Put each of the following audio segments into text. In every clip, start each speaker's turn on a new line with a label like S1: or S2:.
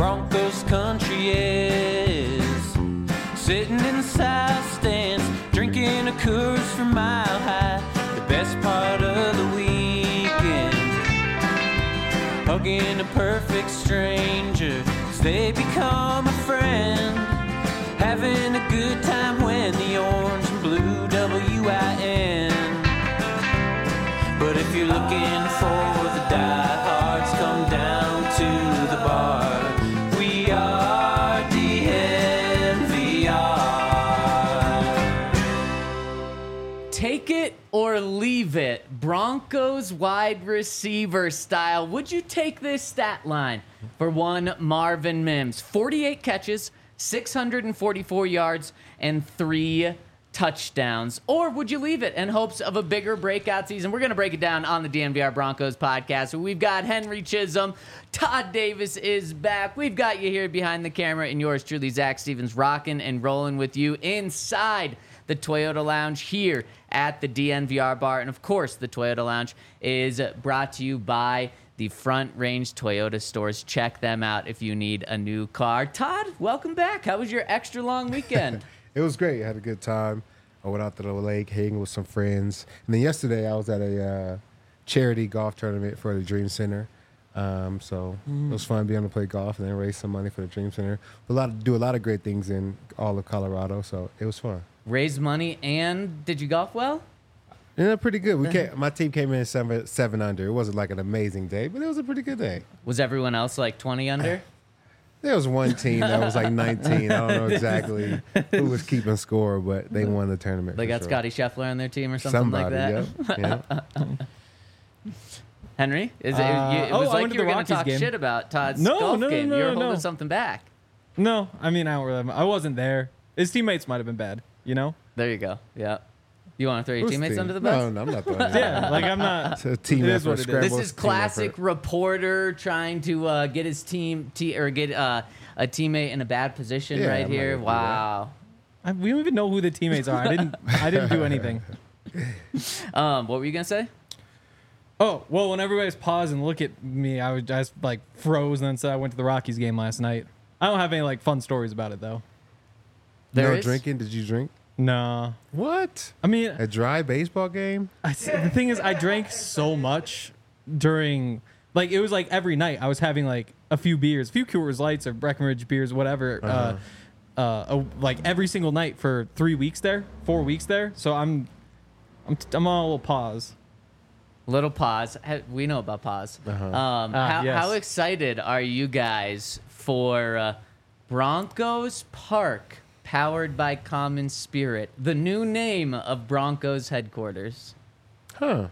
S1: Broncos country is. Sitting in the south stands, drinking a Coors from Mile High. The best part of the weekend, hugging a perfect stranger as they become a friend. Having a good time when the orange and blue WIN. But if you're looking for the diehards, come down to the bar. We are DNVR.
S2: Take it or leave it. Broncos wide receiver style. Would you take this stat line for one Marvin Mims? 48 catches, 644 yards, and 3 touchdowns. Or would you leave it in hopes of a bigger breakout season? We're going to break it down on the DNVR Broncos podcast. We've got Henry Chisholm. Todd Davis is back. We've got you here behind the camera, and yours truly, Zach Stevens, rocking and rolling with you inside the Toyota Lounge here at the DNVR bar. And of course, the Toyota Lounge is brought to you by the Front Range Toyota stores. Check them out if you need a new car. Todd, welcome back. How was your extra long weekend?
S3: It was great. I had a good time. I went out to the lake, hanging with some friends. And then yesterday, I was at a charity golf tournament for the Dream Center. So it was fun being able to play golf and then raise some money for the Dream Center. Do a lot of great things in all of Colorado, so it was fun.
S2: Raise money, and did you golf well?
S3: Yeah, pretty good. My team came in 7 under. It wasn't like an amazing day, but it was a pretty good day.
S2: Was everyone else like 20 under?
S3: There was one team that was like 19. I don't know exactly who was keeping score, but they won the tournament.
S2: They got
S3: sure.
S2: Scotty Scheffler on their team or something like that?
S3: Yep.
S2: Henry, it was like you were going to talk
S4: game.
S2: shit about Todd's golf game. You were holding something back.
S4: No, I mean, I wasn't there. His teammates might have been bad, you know?
S2: There you go. Yeah. You want to throw your
S3: Who's
S2: teammates
S3: team?
S2: under the bus?
S3: No, I'm not throwing them.
S4: Yeah, like I'm not.
S3: It's a team
S4: It is
S3: effort.
S4: what it is.
S3: Scramble,
S2: This is
S3: team
S2: classic
S3: effort.
S2: reporter trying to get his team or get a teammate in a bad position
S3: Yeah,
S2: right
S3: I'm
S2: here.
S3: not gonna do
S2: Wow.
S4: We don't even know who the teammates are. I didn't do anything.
S2: What were you gonna say?
S4: Oh, well, when everybody's paused and look at me, I just like froze and then said I went to the Rockies game last night. I don't have any like fun stories about it though.
S2: There
S3: No
S2: is?
S3: drinking? Did you drink?
S4: No.
S3: What?
S4: I mean,
S3: A dry baseball game?
S4: the thing is, I drank so much during, like, it was like every night I was having like a few beers, a few Coors Lights or Breckenridge beers, whatever, like every single night for 4 weeks there. So I'm on a little pause.
S2: Little pause. We know about pause.
S4: Yes.
S2: How excited are you guys for Broncos Park, powered by Common Spirit, the new name of Broncos headquarters?
S3: Huh.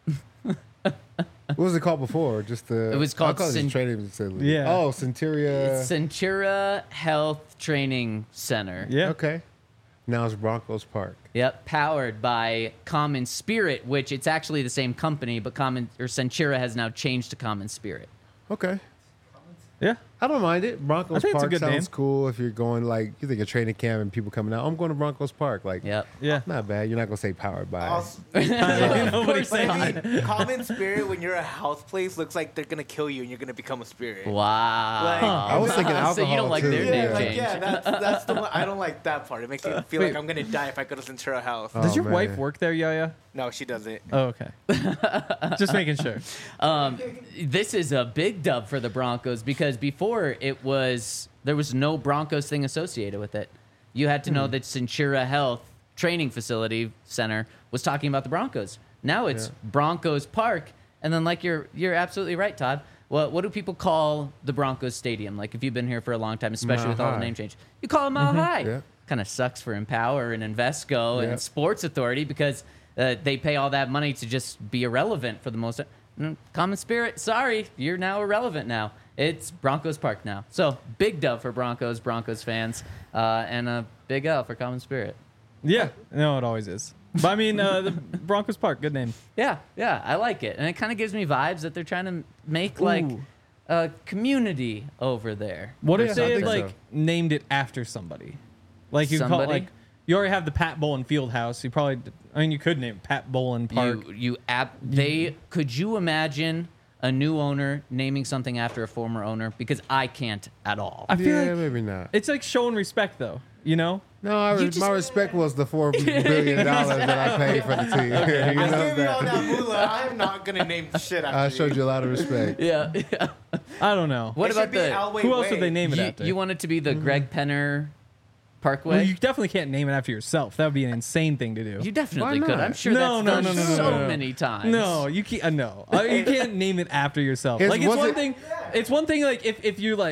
S3: What was it called before? Just the.
S2: It was called
S3: I call it training facility.
S4: Yeah.
S3: Oh, Centuria.
S2: Centura Health Training Center.
S4: Yeah.
S3: Okay. Now it's Broncos Park.
S2: Yep, powered by Common Spirit, which it's actually the same company, but Centura has now changed to Common Spirit.
S3: Okay.
S4: Yeah.
S3: I don't mind it. Broncos
S4: think it's a
S3: Park
S4: good
S3: sounds
S4: name.
S3: cool if you're going, like, you think a training camp and people coming out. I'm going to Broncos Park. Like,
S2: Yep.
S4: Yeah.
S3: not bad. You're not going to say powered by.
S5: Also,
S4: Nobody
S2: course not.
S5: I mean, common spirit when you're a health place looks like they're gonna kill you and you're gonna become a spirit.
S2: Wow.
S5: Like-
S3: I was thinking alcohol,
S2: So you don't like
S3: too.
S2: their name change.
S5: That's the one. I don't like that part. It makes me feel like I'm gonna die if I go to Centura Health.
S3: Oh,
S4: Does your
S3: man.
S4: wife work there, Yaya?
S5: No, she doesn't.
S4: Oh, okay. Just making sure.
S2: This is a big dub for the Broncos because before there was no Broncos thing associated with it. You had to know that Centura Health Training Facility Center was talking about the Broncos. Now it's Broncos Park, and then like you're absolutely right, Todd. What do people call the Broncos Stadium? Like if you've been here for a long time, especially
S3: Mile
S2: with all the
S3: High.
S2: name change, you call it Mile High.
S3: Yeah.
S2: Kind of sucks for Empower and Invesco
S3: Yeah.
S2: and Sports Authority because they pay all that money to just be irrelevant for the most. Common Spirit, sorry, you're now irrelevant now. It's Broncos Park now. So big dub for Broncos fans, and a big L for Common Spirit.
S4: Yeah. No, it always is. But I mean, the Broncos Park, good name.
S2: Yeah, I like it. And it kind of gives me vibes that they're trying to make like
S4: Ooh.
S2: a community over there.
S4: What if
S3: I
S4: they
S3: think
S4: like
S3: so.
S4: named it after somebody? Like you call it
S2: Somebody?
S4: like you already have the Pat Bowlen Fieldhouse. You could name it Pat Bowlen Park.
S2: Could you imagine a new owner naming something after a former owner? Because I can't at all.
S4: I feel
S3: Yeah,
S4: like
S3: maybe not.
S4: it's like showing respect, though. You know?
S3: No,
S2: just-
S3: my respect was the $4 billion that I paid for the team. You
S5: I
S3: know
S5: gave you all
S3: that.
S5: that moolah. I'm not gonna name shit after
S3: I showed you a lot of respect.
S2: Yeah.
S4: I don't know.
S2: What
S5: It
S2: about
S5: should be
S2: the?
S5: Elway
S4: Who else
S5: Way.
S4: would they name it
S2: You,
S4: after?
S2: you want it to be the Greg Penner Parkway?
S4: Well, you definitely can't name it after yourself. That would be an insane thing to do.
S2: You definitely
S3: Why
S2: could.
S3: not?
S2: I'm sure
S4: No,
S2: that's
S4: no,
S2: done
S4: no, no,
S2: so
S4: no, no.
S2: many times.
S4: No, you can't. No, you can't name it after yourself.
S3: It's-
S4: Like it's
S3: was
S4: one
S3: it-
S4: thing. It's one thing. Like if you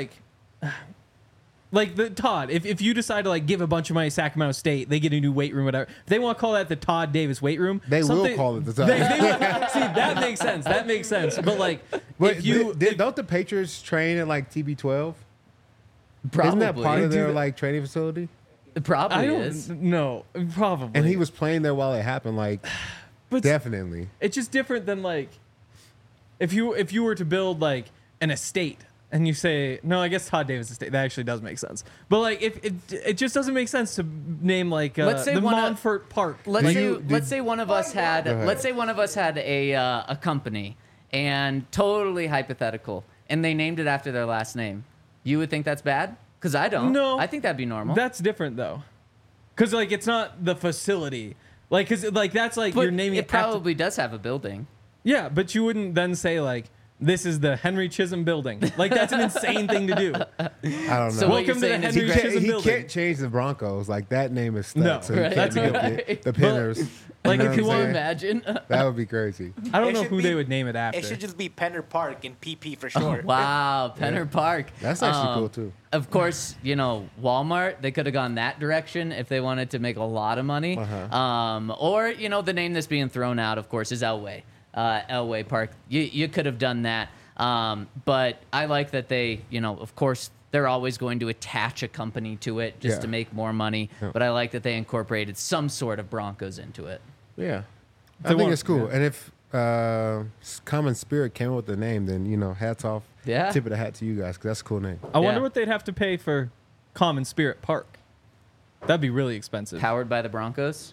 S4: like the Todd. If you decide to like give a bunch of money to Sacramento State, they get a new weight room, whatever. If they want to call that the Todd Davis weight room,
S3: They will
S4: something-
S3: call it the Todd.
S4: See, that makes sense. That makes sense. But like,
S3: But
S4: if you
S3: don't the Patriots train at like TB12?
S2: Probably.
S3: Isn't that part of
S4: Do
S3: their
S4: that.
S3: like training facility?
S2: It probably
S4: I don't
S2: is.
S4: know, probably.
S3: And he was playing there while it happened. Like,
S4: But
S3: definitely.
S4: it's just different than like if you were to build like an estate and you say no, I guess Todd Davis estate, that actually does make sense. But like if it just doesn't make sense to name like
S2: Let's say
S4: the
S2: one of-
S4: Montfort Park.
S2: Let's
S3: Do
S2: say
S3: you-
S2: let's say one of us had
S3: Go ahead.
S2: let's say one of us had a company and totally hypothetical and they named it after their last name. You would think that's bad? Because I don't.
S4: No.
S2: I think that'd be normal.
S4: That's different though, because like it's not the facility. Like, cause like that's like
S2: but
S4: you're naming
S2: it
S4: it after-
S2: probably does have a building.
S4: Yeah, but you wouldn't then say like this is the Henry Chisholm building. Like that's an insane thing to do.
S3: I don't know.
S2: So what you're
S4: Welcome to the
S2: saying is
S4: Henry
S2: he
S4: Chisholm
S3: he
S4: building.
S3: can't change the Broncos. Like, that name is stuck.
S4: No,
S3: so he
S2: right.
S3: can't
S2: That's
S3: make
S2: right.
S3: the Penners.
S4: Like,
S3: know
S4: if
S3: what
S4: you
S3: I'm
S4: want-
S3: saying?
S2: Imagine.
S3: That would be crazy.
S4: I don't
S5: It
S4: know
S5: should
S4: who
S5: be-
S4: they would name it after.
S5: It should just be Penner Park and PP for short.
S2: Wow, Penner Park.
S3: That's actually cool, too.
S2: Of course, Walmart, they could have gone that direction if they wanted to make a lot of money. Or, the name that's being thrown out, of course, is Elway. Elway Park. You could have done that. But I like that they, of course, they're always going to attach a company to it just
S3: Yeah.
S2: to make more money.
S3: Yeah.
S2: But I like that they incorporated some sort of Broncos into it.
S3: Yeah.
S4: They
S3: I think
S4: want-
S3: it's cool.
S4: yeah.
S3: And if Common Spirit came up with the name, then, hats off.
S2: Yeah.
S3: Tip of the hat to you guys, because that's a cool name.
S4: I wonder
S2: Yeah.
S4: what they'd have to pay for Common Spirit Park. That'd be really expensive.
S2: Powered by the Broncos.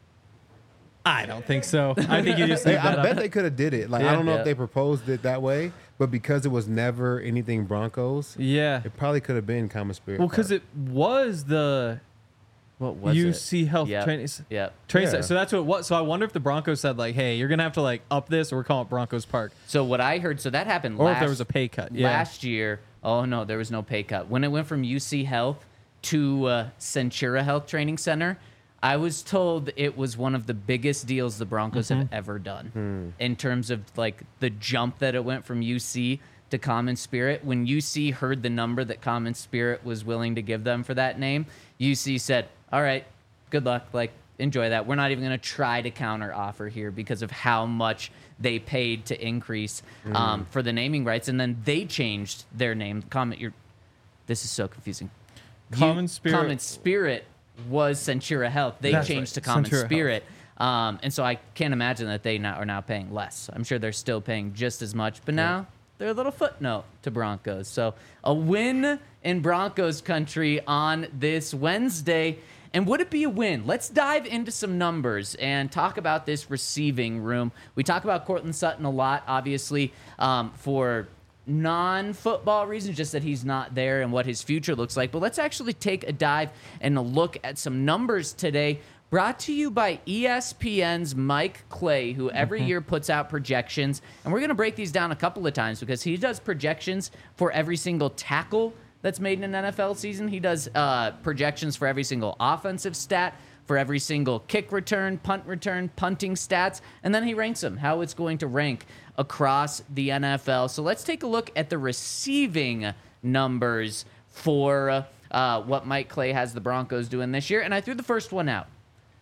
S4: I don't think so. I think you just
S3: Hey,
S4: leave that
S3: I bet
S4: up.
S3: they could have did it. Like,
S4: Yeah.
S3: I don't know
S2: Yeah.
S3: if they proposed it that way, but because it was never anything Broncos,
S4: Yeah.
S3: it probably could have been Common Spirit.
S4: Well, because
S3: Park.
S4: it was the
S2: What was
S4: UC
S2: it?
S4: Health
S2: Yep.
S4: Training.
S2: Yep.
S4: Training
S3: Yeah.
S4: Center. So that's what it was. So I wonder if the Broncos said like, "Hey, you're gonna have to like up this, or we're calling it Broncos Park,"
S2: So what I heard, so that happened
S4: or
S2: last
S4: if there was a pay cut. Yeah.
S2: last year. Oh no, there was no pay cut. When it went from UC Health to Centura Health Training Center, I was told it was one of the biggest deals the Broncos have ever done in terms of like the jump that it went from UC to Common Spirit. When UC heard the number that Common Spirit was willing to give them for that name, UC said, "All right, good luck. Like, enjoy that. We're not even going to try to counter offer here because of how much they paid to increase for the naming rights." And then they changed their name. This is so confusing.
S4: Common Spirit-
S2: Common Spirit was Centura Health. They
S4: That's
S2: changed
S4: right,
S2: to Common
S4: Centura Health.
S2: Spirit. And so I can't imagine that they are now paying less. I'm sure they're still paying just as much, but now they're a little footnote to Broncos. So a win in Broncos country on this Wednesday. And would it be a win? Let's dive into some numbers and talk about this receiving room. We talk about Cortland Sutton a lot, obviously, for non-football reasons, just that he's not there and what his future looks like. But let's actually take a dive and a look at some numbers today, brought to you by ESPN's Mike Clay, who every year puts out projections. And we're going to break these down a couple of times because he does projections for every single tackle that's made in an NFL season. He does projections for every single offensive stat, for every single kick return, punting stats, and then he ranks them, how it's going to rank across the NFL. So let's take a look at the receiving numbers for what Mike Clay has the Broncos doing this year. And I threw the first one out.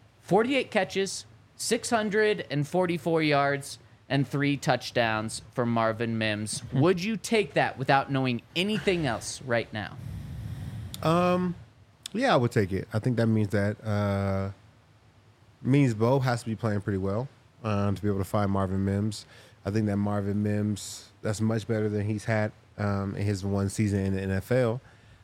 S2: 48 catches, 644 yards, and 3 touchdowns for Marvin Mims. Would you take that without knowing anything else right now?
S3: Yeah, I would take it. I think that means that means Bo has to be playing pretty well to be able to find Marvin Mims. I think that Marvin Mims, that's much better than he's had in his one season in the NFL.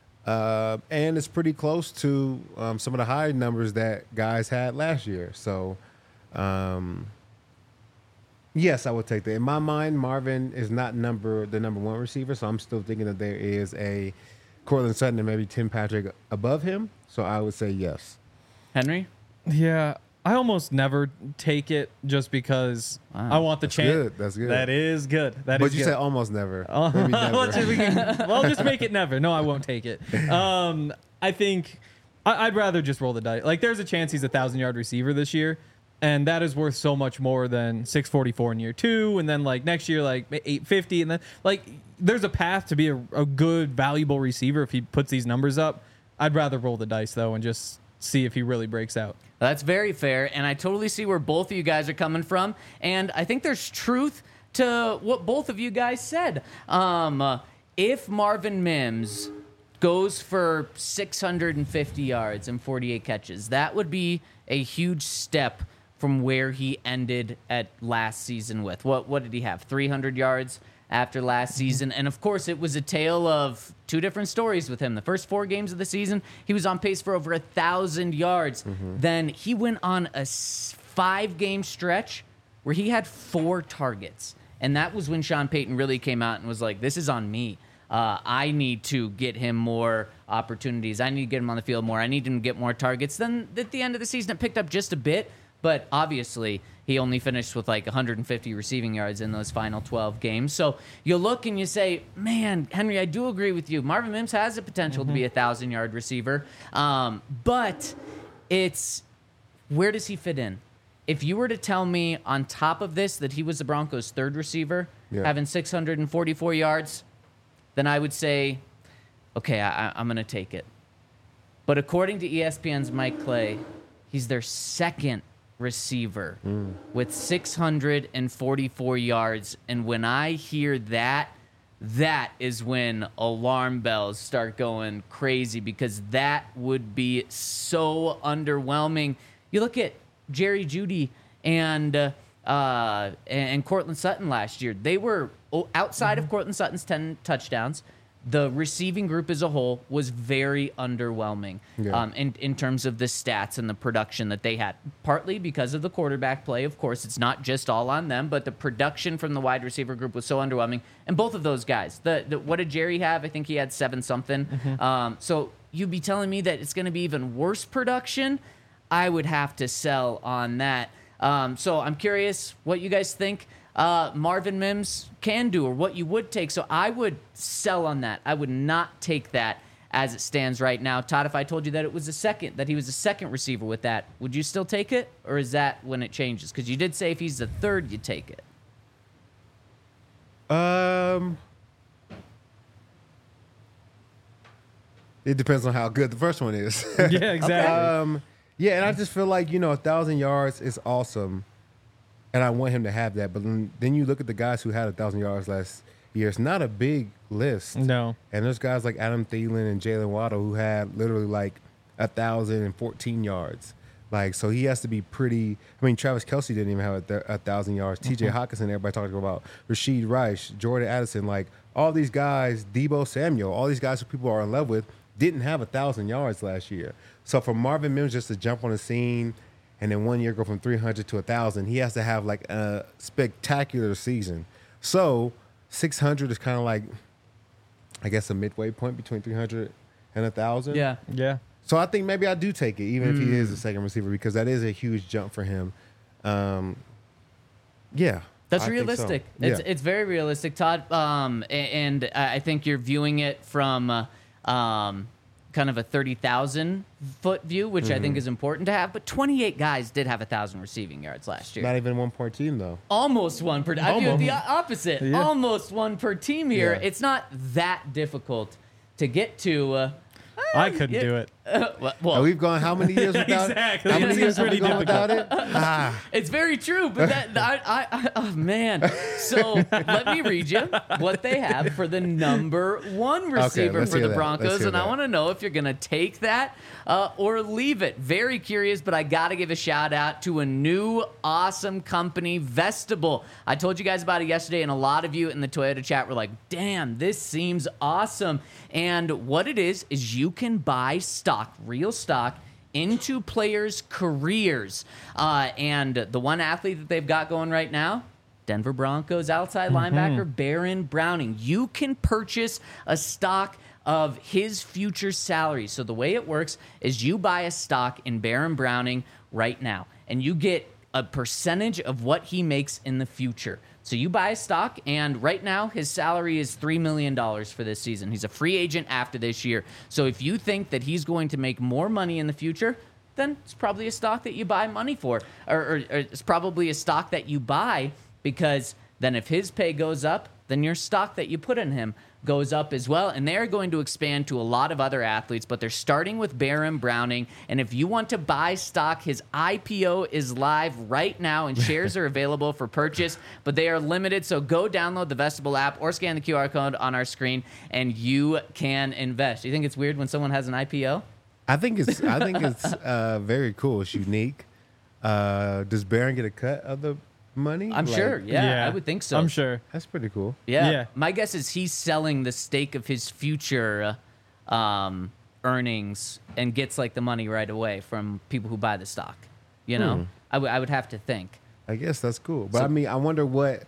S3: And it's pretty close to some of the high numbers that guys had last year. So, Yes, I would take that. In my mind, Marvin is not the number one receiver, so I'm still thinking that there is a Cortland Sutton and maybe Tim Patrick above him. So I would say yes.
S2: Henry?
S4: Yeah, I almost never take it just because I want the chance.
S3: Good. That's good.
S4: That is good. That
S3: But
S4: is
S3: you
S4: good.
S3: said almost never. Maybe never.
S4: Let's just, well, just make it never. No, I won't take it. I think I'd rather just roll the dice. Like, there's a chance he's a 1,000-yard receiver this year, and that is worth so much more than 644 in year 2, and then like next year like 850, and then like there's a path to be a good, valuable receiver if he puts these numbers up. I'd rather roll the dice though and just see if he really breaks out.
S2: That's very fair, and I totally see where both of you guys are coming from, and I think there's truth to what both of you guys said. If Marvin Mims goes for 650 yards and 48 catches, that would be a huge step from where he ended at last season with. What did he have? 300 yards after last season. And of course, it was a tale of two different stories with him. The first 4 games of the season, he was on pace for over 1,000 yards. Then he went on a 5-game stretch where he had 4 targets. And that was when Sean Payton really came out and was like, this is on me. I need to get him more opportunities. I need to get him on the field more. I need him to get more targets. Then at the end of the season, it picked up just a bit. But obviously, he only finished with like 150 receiving yards in those final 12 games. So you look and you say, man, Henry, I do agree with you. Marvin Mims has the potential to be a 1,000-yard receiver. But it's, where does he fit in? If you were to tell me on top of this that he was the Broncos' 3rd receiver, having 644 yards, then I would say, okay, I'm going to take it. But according to ESPN's Mike Clay, he's their 2nd receiver with 644 yards. And when I hear that, that is when alarm bells start going crazy, because that would be so underwhelming. You look at Jerry Jeudy and Cortland Sutton last year. They were outside of Cortland Sutton's 10 touchdowns. The receiving group as a whole was very underwhelming in terms of the stats and the production that they had. Partly because of the quarterback play, of course. It's not just all on them, but the production from the wide receiver group was so underwhelming. And both of those guys, what did Jerry have? I think he had 7-something. So you'd be telling me that it's going to be even worse production? I would have to sell on that. So I'm curious what you guys think Marvin Mims can do, or what you would take. So I would sell on that. I would not take that as it stands right now. Todd, if I told you that he was a second receiver with that, would you still take it, or is that when it changes? Because you did say if he's the 3rd, you take it.
S3: It depends on how good the first one is.
S4: Yeah, exactly.
S3: Yeah, and I just feel like, 1,000 yards is awesome, and I want him to have that. But then you look at the guys who had 1,000 yards last year. It's not a big list.
S4: No.
S3: And there's guys like Adam Thielen and Jalen Waddle who had literally like 1,014 yards. Like, so he has to be pretty. I mean, Travis Kelce didn't even have 1,000 yards. T.J. Hockenson, everybody talking about Rasheed Rice, Jordan Addison, like all these guys, Deebo Samuel, all these guys who people are in love with, didn't have 1,000 yards last year. So for Marvin Mims just to jump on the scene and then one year go from 300 to 1,000, he has to have like a spectacular season. So 600 is kind of like, I guess, a midway point between 300 and 1,000.
S2: Yeah.
S4: Yeah.
S3: So I think maybe I do take it, even if he is a second receiver, because that is a huge jump for him. Yeah.
S2: That's
S3: I think
S2: realistic.
S3: so. Yeah.
S2: It's very realistic, Todd. And I think you're viewing it from kind of a 30,000-foot view, which I think is important to have. But 28 guys did have 1,000 receiving yards last year.
S3: Not even one per team, though.
S2: Almost one per. I view it the opposite.
S4: Yeah.
S2: Almost one per team here.
S3: Yeah.
S2: It's not that difficult to get to.
S4: I couldn't do it.
S2: Well,
S3: We've gone how many years without
S4: Exactly.
S3: How many
S4: It
S3: years
S4: seems
S3: have we
S4: pretty
S3: gone without it?
S2: it's very true, but oh man. So let me read you what they have for the number 1 receiver
S3: let's
S2: for
S3: hear
S2: the
S3: that. Let's
S2: Broncos,
S3: hear
S2: and I
S3: that.
S2: want to know if you're going to take that or leave it. Very curious, but I got to give a shout out to a new awesome company, Vestibule. I told you guys about it yesterday, and a lot of you in the Toyota chat were like, damn, this seems awesome. And what it is you can buy stock, real stock, into players' careers. And the one athlete that they've got going right now, Denver Broncos outside linebacker Baron Browning. You can purchase a stock of his future salary. So the way it works is you buy a stock in Baron Browning right now, and you get a percentage of what he makes in the future. So you buy a stock, and right now his salary is $3 million for this season. He's a free agent after this year. So if you think that he's going to make more money in the future, then it's probably a stock that you buy money for. Or it's probably a stock that you buy because then if his pay goes up, then your stock that you put in him goes up as well. And they're going to expand to a lot of other athletes, but they're starting with Baron Browning. And if you want to buy stock, his IPO is live right now, and shares are available for purchase, but they are limited. So go download the Vestibule app or scan the QR code on our screen, and you can invest. Do you think it's weird when someone has an IPO?
S3: I think it's very cool. It's unique. Does Baron get a cut of the money?
S2: I'm sure. Yeah, I would think so.
S4: I'm sure.
S3: That's pretty cool.
S2: Yeah. My guess is he's selling the stake of his future earnings and gets like the money right away from people who buy the stock. You know, I would have to think.
S3: I guess that's cool. But I mean, I wonder what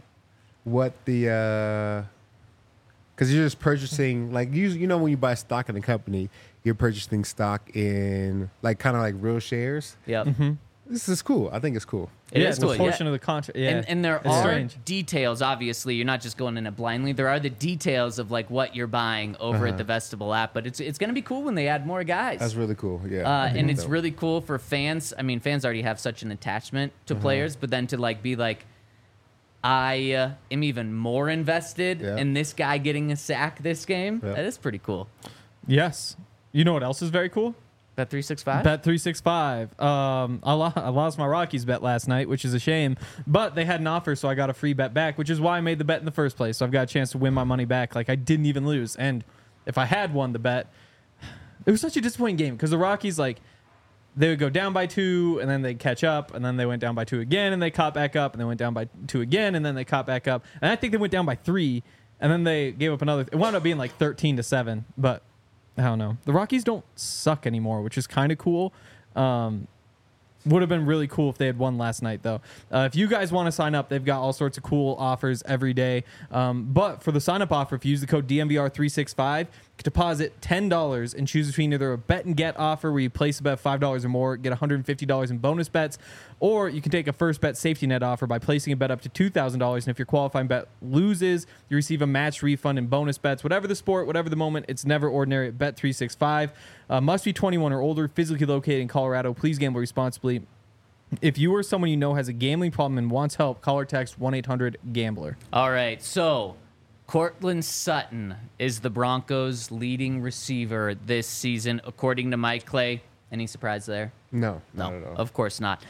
S3: the because you're just purchasing, like, you know, when you buy stock in a company, you're purchasing stock in like kind of like real shares.
S2: Yep.
S3: This is cool. I think it's cool.
S2: It is
S4: It's
S2: cool.
S4: a portion of the contract. Yeah.
S2: And there
S4: It's
S2: are
S4: strange.
S2: details, obviously. You're not just going in it blindly. There are the details of like what you're buying over at the Vestibule app. But it's going to be cool when they add more guys.
S3: That's really cool. Yeah. I think
S2: And
S3: that's
S2: it's
S3: dope.
S2: really cool for fans. I mean, fans already have such an attachment to players, but then to like be like, I am even more invested
S3: Yeah.
S2: in this guy getting a sack this game.
S3: Yeah.
S2: That is pretty cool.
S4: Yes. You know what else is very cool?
S2: Bet 365.
S4: Bet 365. I lost my Rockies bet last night, which is a shame. But they had an offer, so I got a free bet back, which is why I made the bet in the first place. So I've got a chance to win my money back. Like, I didn't even lose. And if I had won the bet, it was such a disappointing game because the Rockies, like, they would go down by 2, and then they'd catch up, and then they went down by 2 again, and they caught back up, and they went down by 2 again, and then they caught back up. And I think they went down by 3, and then they gave up another. It wound up being like 13-7, but I don't know. The Rockies don't suck anymore, which is kind of cool. Would have been really cool if they had won last night, though. If you guys want to sign up, they've got all sorts of cool offers every day. But for the sign-up offer, if you use the code DMVR365, you can deposit $10 and choose between either a bet and get offer where you place a bet of $5 or more, get $150 in bonus bets, or you can take a first bet safety net offer by placing a bet up to $2,000. And if your qualifying bet loses, you receive a match refund and bonus bets. Whatever the sport, whatever the moment, it's never ordinary at Bet365. Must be 21 or older, physically located in Colorado. Please gamble responsibly. If you or someone you know has a gambling problem and wants help, call or text 1-800-GAMBLER.
S2: All right, so Cortland Sutton is the Broncos' leading receiver this season, according to Mike Clay. Any surprise there?
S3: No, not at all.
S2: Of course not.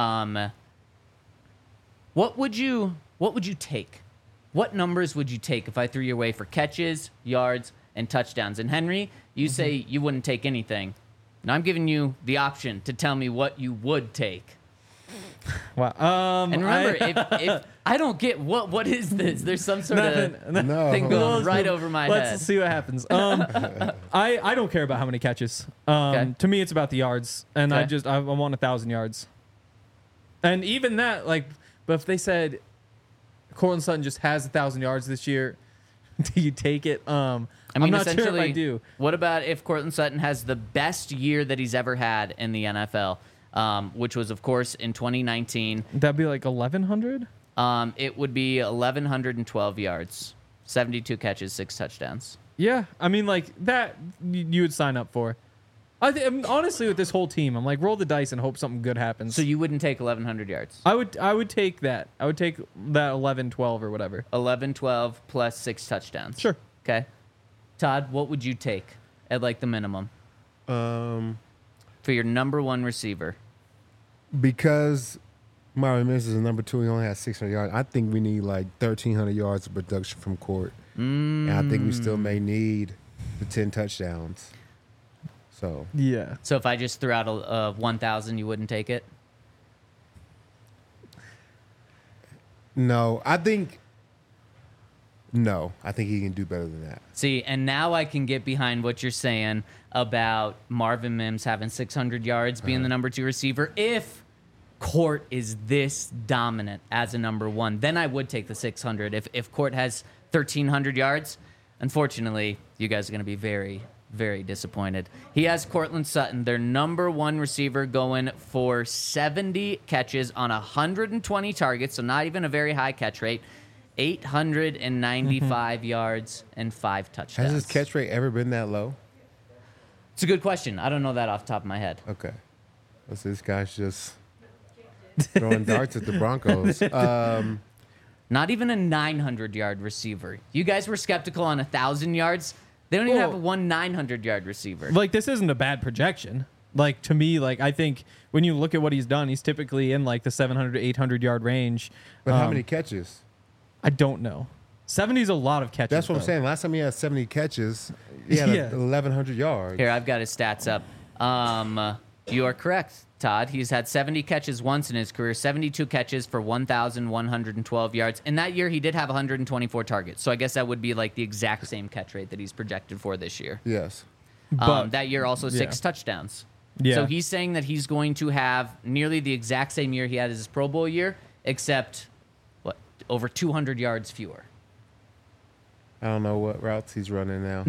S2: What would you take? What numbers would you take if I threw your way for catches, yards, and touchdowns? And Henry, you say you wouldn't take anything. Now I'm giving you the option to tell me what you would take.
S4: Wow.
S2: And remember, if I don't get what is this? There's some sort of
S3: No.
S2: thing going right over my
S4: Let's
S2: head.
S4: see what happens. I don't care about how many catches.
S2: Okay.
S4: To me, it's about the yards, and
S2: Okay.
S4: I want 1,000 yards. And even that, like, but if they said Cortland Sutton just has 1,000 yards this year, do you take it?
S2: I mean,
S4: I'm not sure if
S2: essentially,
S4: I do.
S2: What about if Cortland Sutton has the best year that he's ever had in the NFL, which was, of course, in 2019?
S4: That'd be like 1,100.
S2: It would be 1,112 yards, 72 catches, 6 touchdowns.
S4: Yeah, I mean, like that you would sign up for. I mean, honestly, with this whole team, I'm like, roll the dice and hope something good happens.
S2: So you wouldn't take 1,100 yards?
S4: I would take that. I would take that 11, 12 or whatever.
S2: 11, 12 plus 6 touchdowns.
S4: Sure.
S2: Okay. Todd, what would you take at like the minimum for your number one receiver?
S3: Because Marvin Mims is number 2, he only has 600 yards. I think we need like 1,300 yards of production from Court. And I think we still may need the 10 touchdowns. So
S4: Yeah.
S2: So if I just threw out a 1,000, you wouldn't take it?
S3: no, I think he can do better than that.
S2: See, and now I can get behind what you're saying about Marvin Mims having 600 yards, being the number 2 receiver, if Court is this dominant as a number one, then I would take the 600. If Court has 1,300 yards, unfortunately, you guys are going to be very, very disappointed. He has Cortland Sutton, their number one receiver, going for 70 catches on 120 targets, so not even a very high catch rate, 895 yards and 5 touchdowns.
S3: Has his catch rate ever been that low?
S2: It's a good question. I don't know that off the top of my head.
S3: Okay. So this guy's just throwing darts at the Broncos.
S2: Not even a 900-yard receiver. You guys were skeptical on 1,000 yards. They don't even have one 900-yard receiver.
S4: Like, this isn't a bad projection. Like, to me, like, I think when you look at what he's done, he's typically in, like, the 700 to 800-yard range.
S3: But how many catches?
S4: I don't know. 70 is a lot of catches.
S3: That's what I'm
S4: though.
S3: saying. Last time he had 70 catches, he had
S4: Yeah.
S3: 1,100 yards.
S2: Here, I've got his stats up. You are correct, Todd. He's had 70 catches once in his career, 72 catches for 1,112 yards. In that year, he did have 124 targets. So I guess that would be like the exact same catch rate that he's projected for this year.
S3: Yes.
S4: But-
S2: That year, also 6
S4: yeah.
S2: touchdowns.
S4: Yeah.
S2: So he's saying that he's going to have nearly the exact same year he had as his Pro Bowl year, except, over 200 yards fewer.
S3: I don't know what routes he's running now.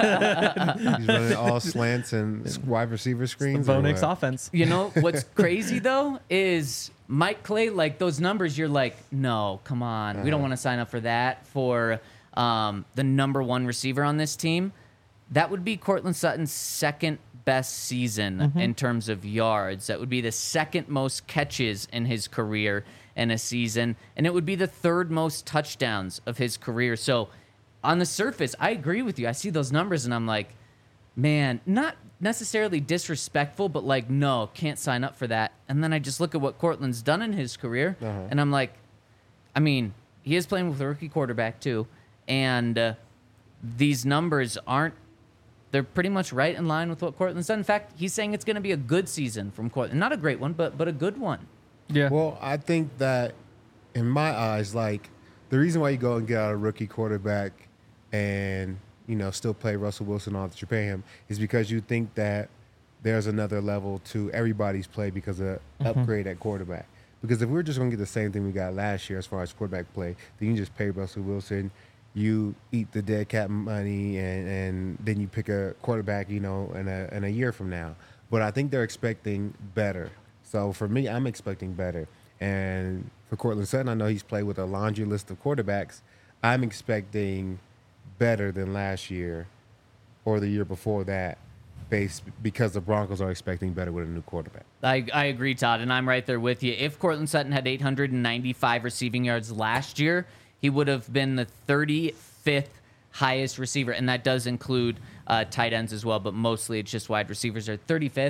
S3: He's running all slants and wide receiver screens.
S4: Bo
S3: or
S4: Nix
S3: what?
S4: offense.
S2: You know, what's crazy, though, is Mike Clay, like those numbers, you're like, no, come on. We don't want to sign up for that for the number one receiver on this team. That would be Cortland Sutton's second best season in terms of yards. That would be the second most catches in his career in a season. And it would be the third most touchdowns of his career. So on the surface, I agree with you. I see those numbers and I'm like, man, not necessarily disrespectful, but like, no, can't sign up for that. And then I just look at what Cortland's done in his career, and I'm like, I mean, he is playing with a rookie quarterback too, and these numbers they're pretty much right in line with what Cortland's done. In fact, he's saying it's going to be a good season from Cortland. Not a great one, but a good one.
S4: Yeah.
S3: Well, I think that in my eyes, like the reason why you go and get out a rookie quarterback and, you know, still play Russell Wilson all that you pay him is because you think that there's another level to everybody's play because of upgrade at quarterback. Because if we're just going to get the same thing we got last year as far as quarterback play, then you just pay Russell Wilson, you eat the dead cap money, and then you pick a quarterback, you know, in a year from now. But I think they're expecting better. So for me, I'm expecting better. And for Cortland Sutton, I know he's played with a laundry list of quarterbacks. I'm expecting better than last year or the year before that, because the Broncos are expecting better with a new quarterback.
S2: I agree, Todd, and I'm right there with you. If Cortland Sutton had 895 receiving yards last year, he would have been the 35th highest receiver, and that does include tight ends as well, but mostly it's just wide receivers are 35th.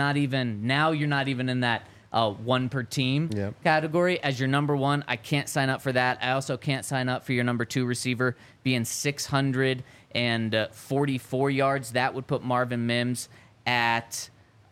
S2: Now you're not even in that one per team category as your number one. I can't sign up for that. I also can't sign up for your number two receiver being 644 yards. That would put Marvin Mims at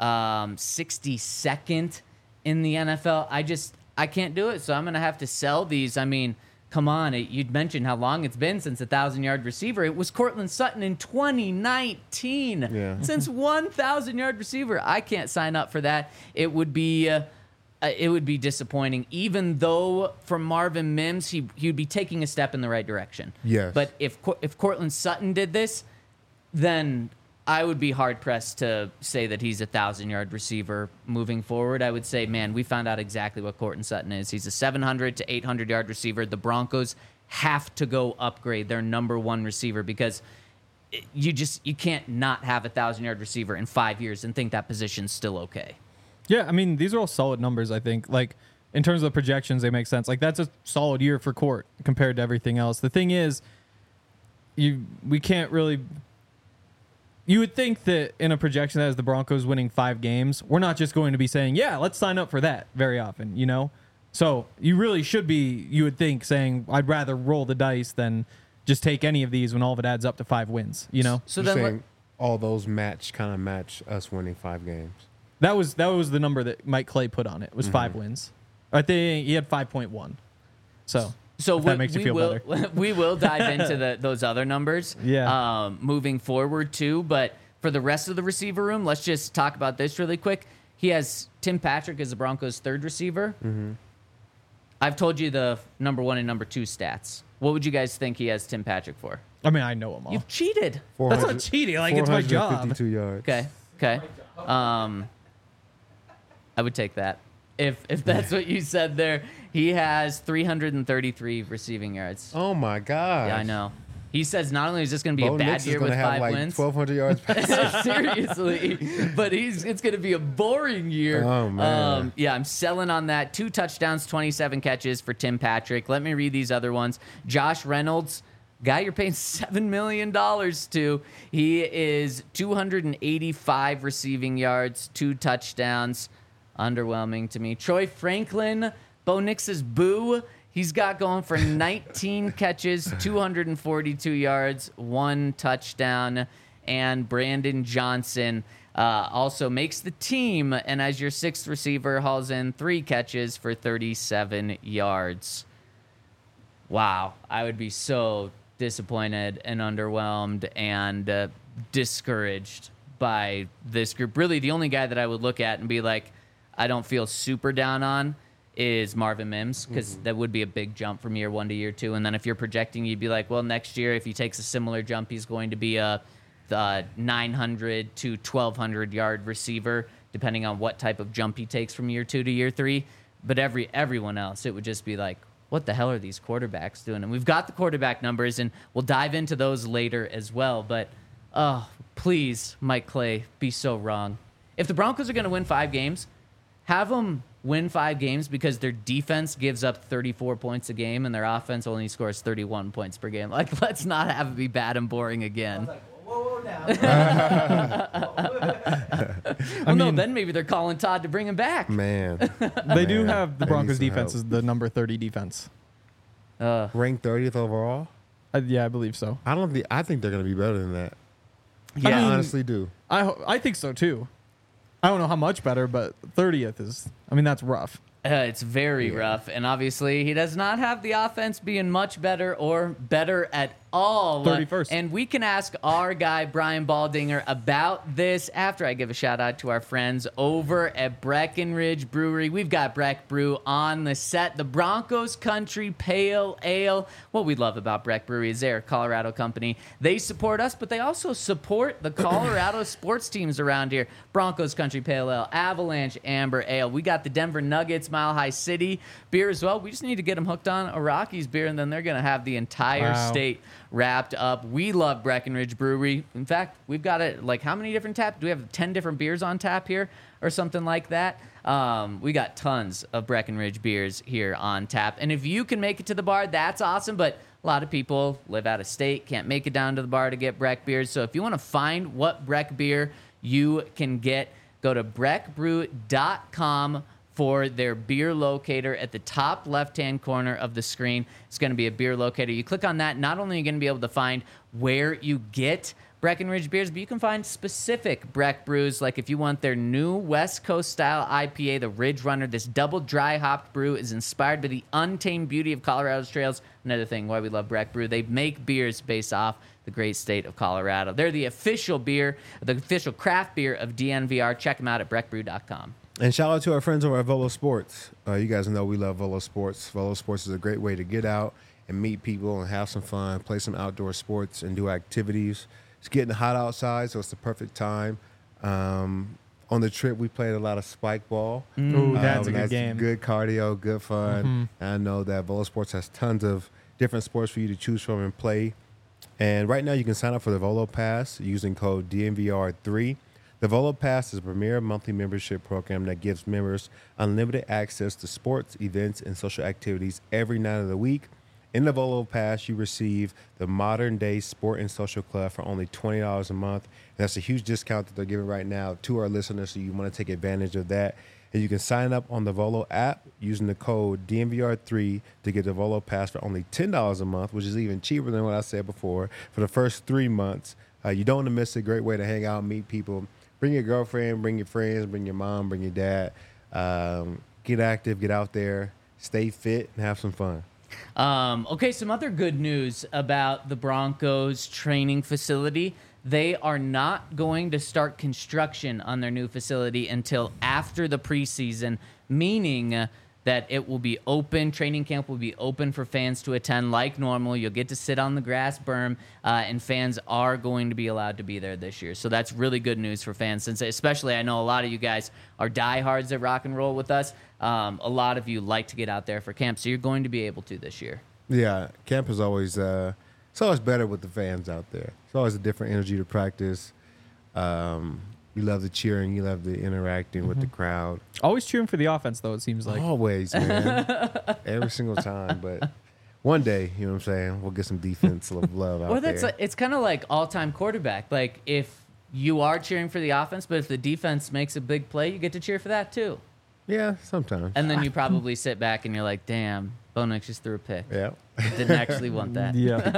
S2: 62nd in the NFL. I can't do it, so I'm going to have to sell these. I mean, come on. You'd mentioned how long it's been since a 1,000-yard receiver. It was Cortland Sutton in 2019.
S3: Yeah.
S2: Since 1,000-yard receiver. I can't sign up for that. It would be disappointing, even though for Marvin Mims, he would be taking a step in the right direction.
S3: Yes.
S2: But if Cortland Sutton did this, then I would be hard-pressed to say that he's a 1,000-yard receiver moving forward. I would say, man, we found out exactly what Cortland Sutton is. He's a 700 to 800-yard receiver. The Broncos have to go upgrade their number one receiver because you can't not have a 1,000-yard receiver in 5 years and think that position's still okay.
S4: Yeah, I mean, these are all solid numbers, I think. Like, in terms of the projections, they make sense. Like, that's a solid year for Court compared to everything else. The thing is, we can't really... You would think that in a projection that has the Broncos winning 5 games, we're not just going to be saying, yeah, let's sign up for that very often, you know? So you really should be, you would think, saying, I'd rather roll the dice than just take any of these when all of it adds up to 5 wins, you know?
S2: So
S3: You're
S2: then
S3: saying all those match us winning 5 games.
S4: That was the number that Mike Clay put on it, was 5 wins. I think he had 5.1. So if that makes you feel better.
S2: We will dive into those other numbers moving forward too. But for the rest of the receiver room, let's just talk about this really quick. he has Tim Patrick as the Broncos' third receiver. I've told you the number 1 and number 2 stats. What would you guys think he has Tim Patrick for?
S4: I mean, I know them all.
S2: You've cheated.
S4: That's not cheating. Like, it's my job.
S3: 452 yards.
S2: Okay. I would take that. If that's what you said there. He has 333 receiving yards.
S3: Oh my God.
S2: Yeah, I know. He says not only is this going to be
S3: Bo
S2: a bad
S3: Nix is
S2: year
S3: gonna
S2: with
S3: have
S2: 5
S3: like
S2: wins.
S3: 1,200 yards passing.
S2: Seriously, but it's going to be a boring year.
S3: Oh, man.
S2: Yeah, I'm selling on that. 2 touchdowns, 27 catches for Tim Patrick. Let me read these other ones. Josh Reynolds, guy you're paying $7 million to. He is 285 receiving yards, 2 touchdowns. Underwhelming to me. Troy Franklin, Bo Nix's boo. He's got going for 19 catches, 242 yards, 1 touchdown. And Brandon Johnson also makes the team, and as your 6th receiver, hauls in 3 catches for 37 yards. Wow, I would be so disappointed and underwhelmed and discouraged by this group. Really, the only guy that I would look at and be like, I don't feel super down on is Marvin Mims, because that would be a big jump from year 1 to year 2. And then if you're projecting, you'd be like, well, next year, if he takes a similar jump, he's going to be a 900 to 1,200 yard receiver, depending on what type of jump he takes from year 2 to year 3. But everyone else, it would just be like, what the hell are these quarterbacks doing? And we've got the quarterback numbers, and we'll dive into those later as well. But, please, Mike Clay, be so wrong. If the Broncos are going to win 5 games, have them win 5 games because their defense gives up 34 points a game and their offense only scores 31 points per game. Like, let's not have it be bad and boring again.
S5: Whoa, now.
S2: No, then maybe they're calling Todd to bring him back.
S3: Man.
S4: They do have the
S3: They
S4: Broncos
S3: need some
S4: defense
S3: help.
S4: is the number 30 defense.
S3: Ranked 30th overall?
S4: Yeah, I believe so.
S3: I think they're going to be better than that.
S2: Yeah.
S3: I honestly do.
S4: I think so too. I don't know how much better, but 30th is, I mean, that's rough.
S2: It's very rough, and obviously he does not have the offense being much better or better at all.
S4: 31st.
S2: And we can ask our guy, Brian Baldinger, about this after I give a shout-out to our friends over at Breckenridge Brewery. We've got Breck Brew on the set, the Broncos Country Pale Ale. What we love about Breck Brewery is they're a Colorado company. They support us, but they also support the Colorado sports teams around here. Broncos Country Pale Ale, Avalanche Amber Ale. We got the Denver Nuggets Mile High City beer as well. We just need to get them hooked on a Rockies beer, and then they're going to have the entire state wrapped up. We love Breckenridge Brewery. In fact, we've got it, like, how many different taps? Do we have 10 different beers on tap here or something like that? We got tons of Breckenridge beers here on tap. And if you can make it to the bar, that's awesome. But a lot of people live out of state, can't make it down to the bar to get Breck beers. So if you want to find what Breck beer you can get, go to breckbrew.com for their beer locator at the top left-hand corner of the screen. It's going to be a beer locator. You click on that, not only are you going to be able to find where you get Breckenridge beers, but you can find specific Breck brews, like if you want their new West Coast style IPA, the Ridge Runner. This double dry hopped brew is inspired by the untamed beauty of Colorado's trails. Another thing why we love Breck Brew, they make beers based off the great state of Colorado. They're the official beer, the official craft beer of DNVR. Check them out at breckbrew.com.
S3: And shout out to our friends over at Volo Sports. You guys know we love Volo Sports. Volo Sports is a great way to get out and meet people and have some fun, play some outdoor sports and do activities. It's getting hot outside, so it's the perfect time. On the trip, we played a lot of spike ball.
S4: Ooh, that's a good game.
S3: Good cardio, good fun. And I know that Volo Sports has tons of different sports for you to choose from and play. And right now, you can sign up for the Volo Pass using code DNVR3. The Volo Pass is a premier monthly membership program that gives members unlimited access to sports, events, and social activities every night of the week. In the Volo Pass, you receive the Modern Day Sport and Social Club for only $20 a month. And that's a huge discount that they're giving right now to our listeners, so you want to take advantage of that. And you can sign up on the Volo app using the code DNVR3 to get the Volo Pass for only $10 a month, which is even cheaper than what I said before, for the first 3 months. You don't want to miss it. Great way to hang out and meet people. Bring your girlfriend, bring your friends, bring your mom, bring your dad. Get active, get out there, stay fit, and have some fun.
S2: Okay, some other good news about the Broncos training facility. they are not going to start construction on their new facility until after the preseason, meaning that it will be open. Training camp will be open for fans to attend like normal. You'll get to sit on the grass berm, and fans are going to be allowed to be there this year. So that's really good news for fans, since especially I know a lot of you guys are diehards at Rock and Roll with us. A lot of you like to get out there for camp, so you're going to be able to this year.
S3: Yeah, camp is always it's always better with the fans out there. It's always a different energy to practice. You love the cheering, you love the interacting with the crowd.
S4: Always cheering for the offense, though, it seems like.
S3: Always, man. Every single time. But one day, you know what I'm saying, we'll get some defensive love out there.
S2: It's kind of like all-time quarterback. Like, if you are cheering for the offense, but if the defense makes a big play, you get to cheer for that too.
S3: Yeah, sometimes.
S2: And then you probably sit back and you're like, damn, Bo Nix just threw a pick.
S3: Yeah.
S2: Didn't actually want that.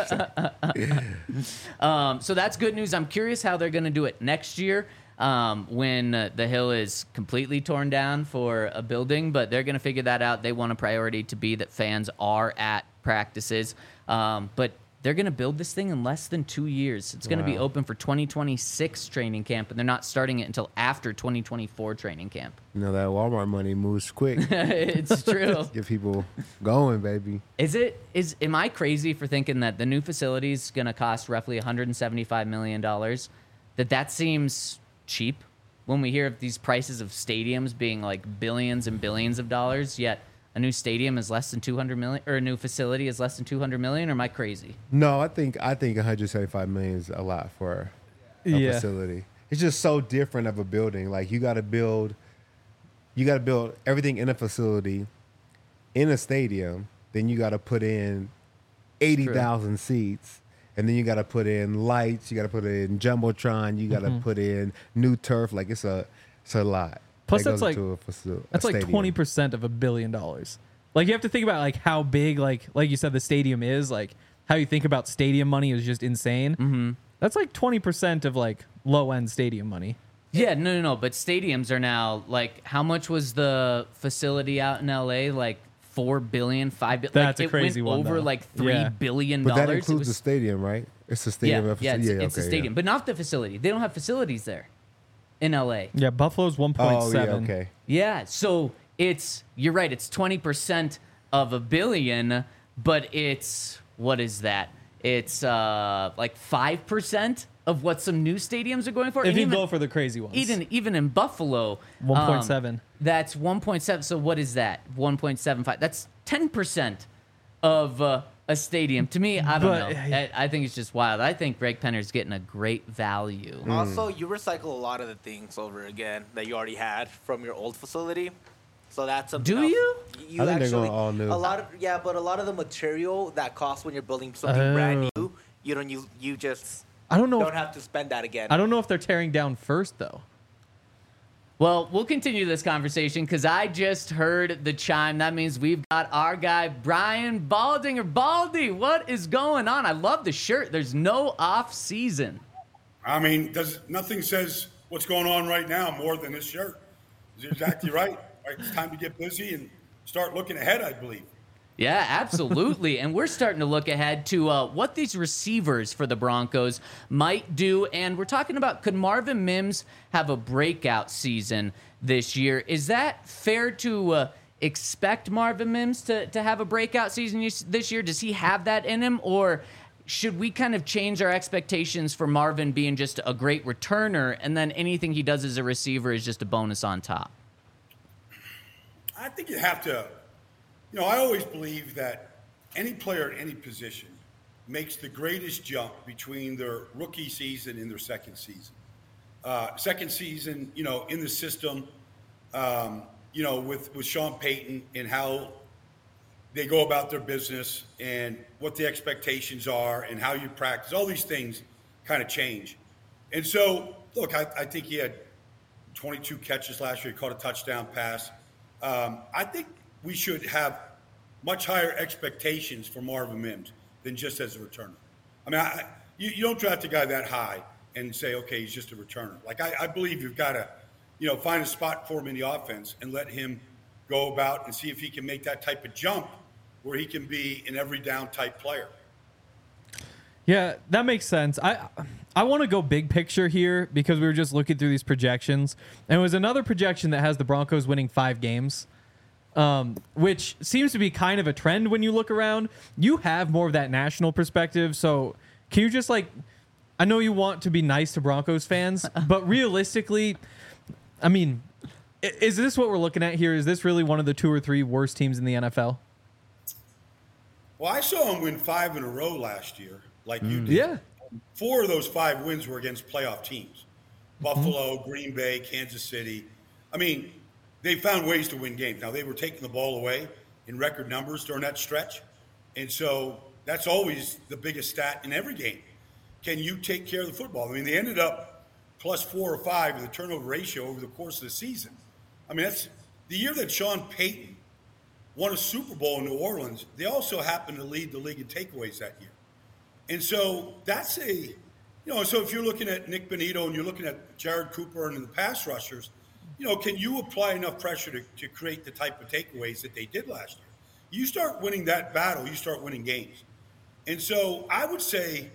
S4: Yeah.
S2: So that's good news. I'm curious how they're going to do it next year when the hill is completely torn down for a building, but they're going to figure that out. They want a priority to be that fans are at practices, but they're going to build this thing in less than 2 years. It's going to be open for 2026 training camp, and they're not starting it until after 2024 training camp.
S3: You know, that Walmart money moves quick.
S2: It's true.
S3: Get people going, baby.
S2: Am I crazy for thinking that the new facility is going to cost roughly $175 million? That seems cheap when we hear of these prices of stadiums being like billions and billions of dollars, yet a new stadium is less than 200 million, or a new facility is less than 200 million, or am I crazy?
S3: No, I think 175 million is a lot for a facility. It's just so different of a building. Like you got to build everything in a facility, in a stadium. Then you got to put in 80,000 seats, and then you got to put in lights. You got to put in jumbotron. You got to put in new turf. Like it's a lot.
S4: Plus,
S3: that
S4: that's like
S3: that's
S4: like 20% of $1 billion. Like you have to think about like how big, like you said, the stadium is. Like how you think about stadium money is just insane. Mm-hmm. That's like 20% of like low end stadium money.
S2: Yeah, no. But stadiums are now like, how much was the facility out in LA? Like $4 billion, $5 billion.
S4: That's
S2: like,
S4: a crazy one.
S2: It went over
S4: though.
S2: like $3 billion.
S3: But that includes the stadium, right? It's a stadium.
S2: It's a stadium, but not the facility. They don't have facilities there in LA.
S4: Yeah, Buffalo's 1.7.
S3: Oh, yeah, okay.
S2: Yeah, so you're right, it's 20% of $1 billion, but it's, what is that? It's like 5% of what some new stadiums are going for.
S4: If you go for the crazy ones.
S2: Even in Buffalo.
S4: 1.7.
S2: That's 1.7. So what is that? 1.75. That's 10% of a stadium. To me, I don't know. I think it's just wild. I think Greg Penner's getting a great value.
S5: Also, you recycle a lot of the things over again that you already had from your old facility. So that's something
S2: Do
S5: else.
S2: you?
S3: I think they're going all new.
S5: A lot of but a lot of the material that costs when you're building something brand new, you just
S4: I don't know.
S5: Don't have to spend that again.
S4: I don't know if they're tearing down first though.
S2: Well, we'll continue this conversation because I just heard the chime. That means we've got our guy, Brian Baldinger. Baldy, what is going on? I love the shirt. There's no off season.
S6: I mean, nothing says what's going on right now more than this shirt. You're exactly right. It's time to get busy and start looking ahead, I believe.
S2: Yeah, absolutely. And we're starting to look ahead to what these receivers for the Broncos might do. And we're talking about, could Marvin Mims have a breakout season this year? Is that fair to expect Marvin Mims to have a breakout season this year? Does he have that in him? Or should we kind of change our expectations for Marvin being just a great returner, and then anything he does as a receiver is just a bonus on top?
S6: I think you have to, I always believe that any player at any position makes the greatest jump between their rookie season and their second season. Second season, in the system, with Sean Payton and how they go about their business and what the expectations are and how you practice, all these things kind of change. And so, look, I think he had 22 catches last year. He caught a touchdown pass. I think we should have much higher expectations for Marvin Mims than just as a returner. I mean, you don't draft a guy that high and say, okay, he's just a returner. Like, I believe you've got to, find a spot for him in the offense and let him go about and see if he can make that type of jump where he can be an every down type player.
S4: Yeah, that makes sense. I want to go big picture here because we were just looking through these projections, and it was another projection that has the Broncos winning 5 games, which seems to be kind of a trend when you look around. You have more of that national perspective, so can you just I know you want to be nice to Broncos fans, but realistically, I mean, is this what we're looking at here? Is this really one of the 2 or 3 worst teams in the NFL?
S6: Well, I saw them win 5 in a row last year, like you did.
S4: Yeah.
S6: 4 of those 5 wins were against playoff teams. Buffalo, Green Bay, Kansas City. I mean, they found ways to win games. Now, they were taking the ball away in record numbers during that stretch. And so that's always the biggest stat in every game. Can you take care of the football? I mean, they ended up plus 4 or 5 in the turnover ratio over the course of the season. I mean, that's the year that Sean Payton won a Super Bowl in New Orleans. They also happened to lead the league in takeaways that year. And so that's so if you're looking at Nick Bonito and you're looking at Jared Cooper and the pass rushers, can you apply enough pressure to create the type of takeaways that they did last year? You start winning that battle, you start winning games. And so I would say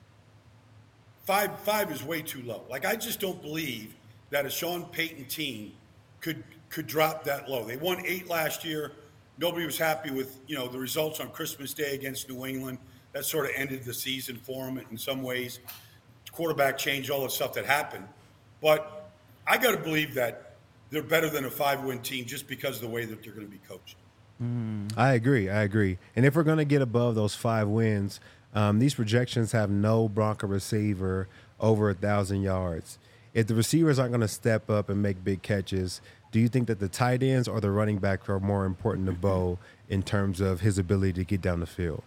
S6: five is way too low. I just don't believe that a Sean Payton team could drop that low. They won 8 last year. Nobody was happy with, the results on Christmas Day against New England. That sort of ended the season for them in some ways. Quarterback change, all the stuff that happened. But I got to believe that they're better than a 5-win team just because of the way that they're going to be coached.
S3: I agree. And if we're going to get above those 5 wins, these projections have no Bronco receiver over 1,000 yards. If the receivers aren't going to step up and make big catches, do you think that the tight ends or the running back are more important to Bo in terms of his ability to get down the field?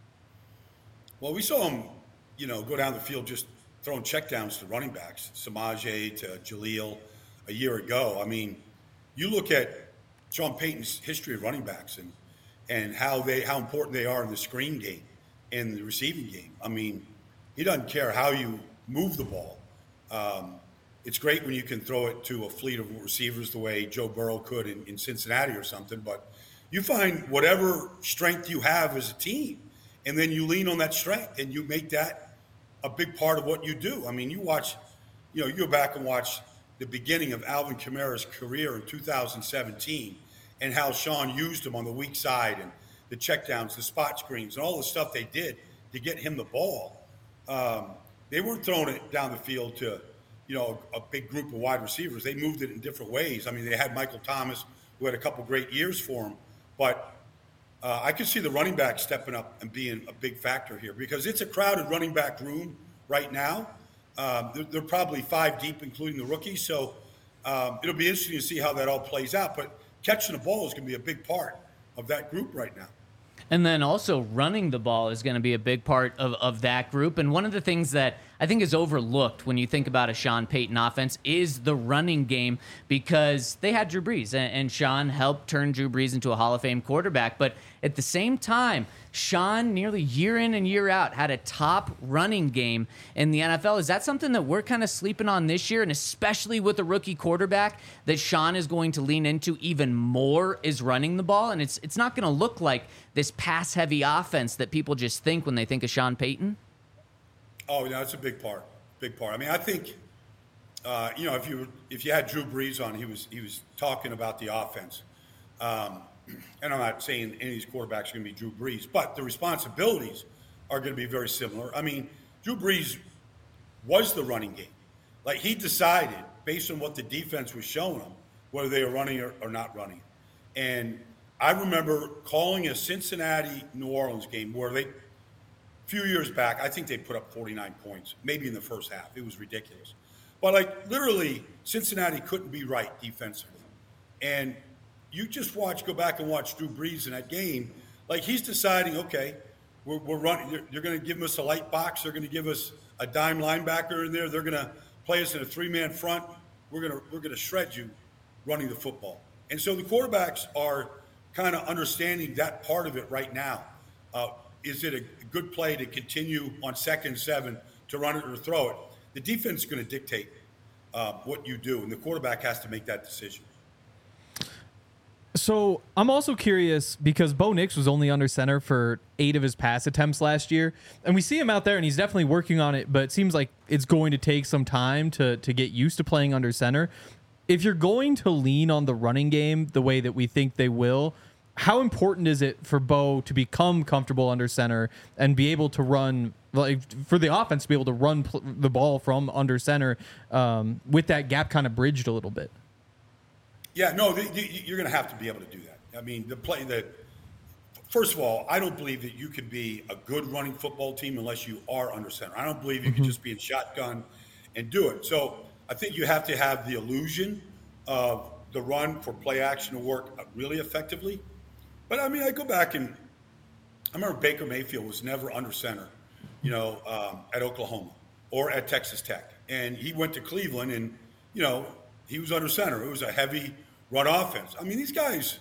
S6: Well, we saw him, go down the field just throwing checkdowns to running backs, Samaje to Jaleel a year ago. I mean, you look at Sean Payton's history of running backs and how important they are in the screen game and the receiving game. I mean, he doesn't care how you move the ball. It's great when you can throw it to a fleet of receivers the way Joe Burrow could in Cincinnati or something, but you find whatever strength you have as a team, and then you lean on that strength and you make that a big part of what you do. I mean, you go back and watch the beginning of Alvin Kamara's career in 2017 and how Sean used him on the weak side and the checkdowns, the spot screens, and all the stuff they did to get him the ball. They weren't throwing it down the field to, a big group of wide receivers. They moved it in different ways. I mean, they had Michael Thomas, who had a couple great years for him, but I could see the running back stepping up and being a big factor here because it's a crowded running back room right now. They're probably 5 deep, including the rookies. So it'll be interesting to see how that all plays out. But catching the ball is going to be a big part of that group right now.
S2: And then also running the ball is going to be a big part of that group. And one of the things that I think is overlooked when you think about a Sean Payton offense is the running game because they had Drew Brees, and Sean helped turn Drew Brees into a Hall of Fame quarterback. But at the same time, Sean nearly year in and year out had a top running game in the NFL. Is that something that we're kind of sleeping on this year, and especially with a rookie quarterback that Sean is going to lean into even more is running the ball? And it's not going to look like this pass-heavy offense that people just think when they think of Sean Payton?
S6: Oh, yeah, it's a big part. Big part. I mean, I think, if you had Drew Brees on, he was talking about the offense. And I'm not saying any of these quarterbacks are going to be Drew Brees, but the responsibilities are going to be very similar. I mean, Drew Brees was the running game. Like, he decided, based on what the defense was showing him, whether they were running or not running. And I remember calling a Cincinnati-New Orleans game where a few years back, I think they put up 49 points, maybe in the first half. It was ridiculous. But, literally, Cincinnati couldn't be right defensively. And you just go back and watch Drew Brees in that game. Like, he's deciding, okay, we're running. They're going to give us a light box. They're going to give us a dime linebacker in there. They're going to play us in a 3-man front. We're going to shred you running the football. And so the quarterbacks are kind of understanding that part of it right now. Is it a good play to continue on 2nd and 7 to run it or throw it? The defense is going to dictate what you do, and the quarterback has to make that decision.
S4: So I'm also curious because Bo Nix was only under center for 8 of his pass attempts last year. And we see him out there and he's definitely working on it, but it seems like it's going to take some time to get used to playing under center. If you're going to lean on the running game the way that we think they will, how important is it for Bo to become comfortable under center and be able to run, like for the offense to be able to run the ball from under center with that gap kind of bridged a little bit?
S6: Yeah, no, you're going to have to be able to do that. I mean, first of all, I don't believe that you can be a good running football team unless you are under center. I don't believe you can just be in shotgun and do it. So I think you have to have the illusion of the run for play action to work really effectively. But I mean, I go back and I remember Baker Mayfield was never under center, at Oklahoma or at Texas Tech. And he went to Cleveland and, he was under center. It was a heavy run offense. I mean, these guys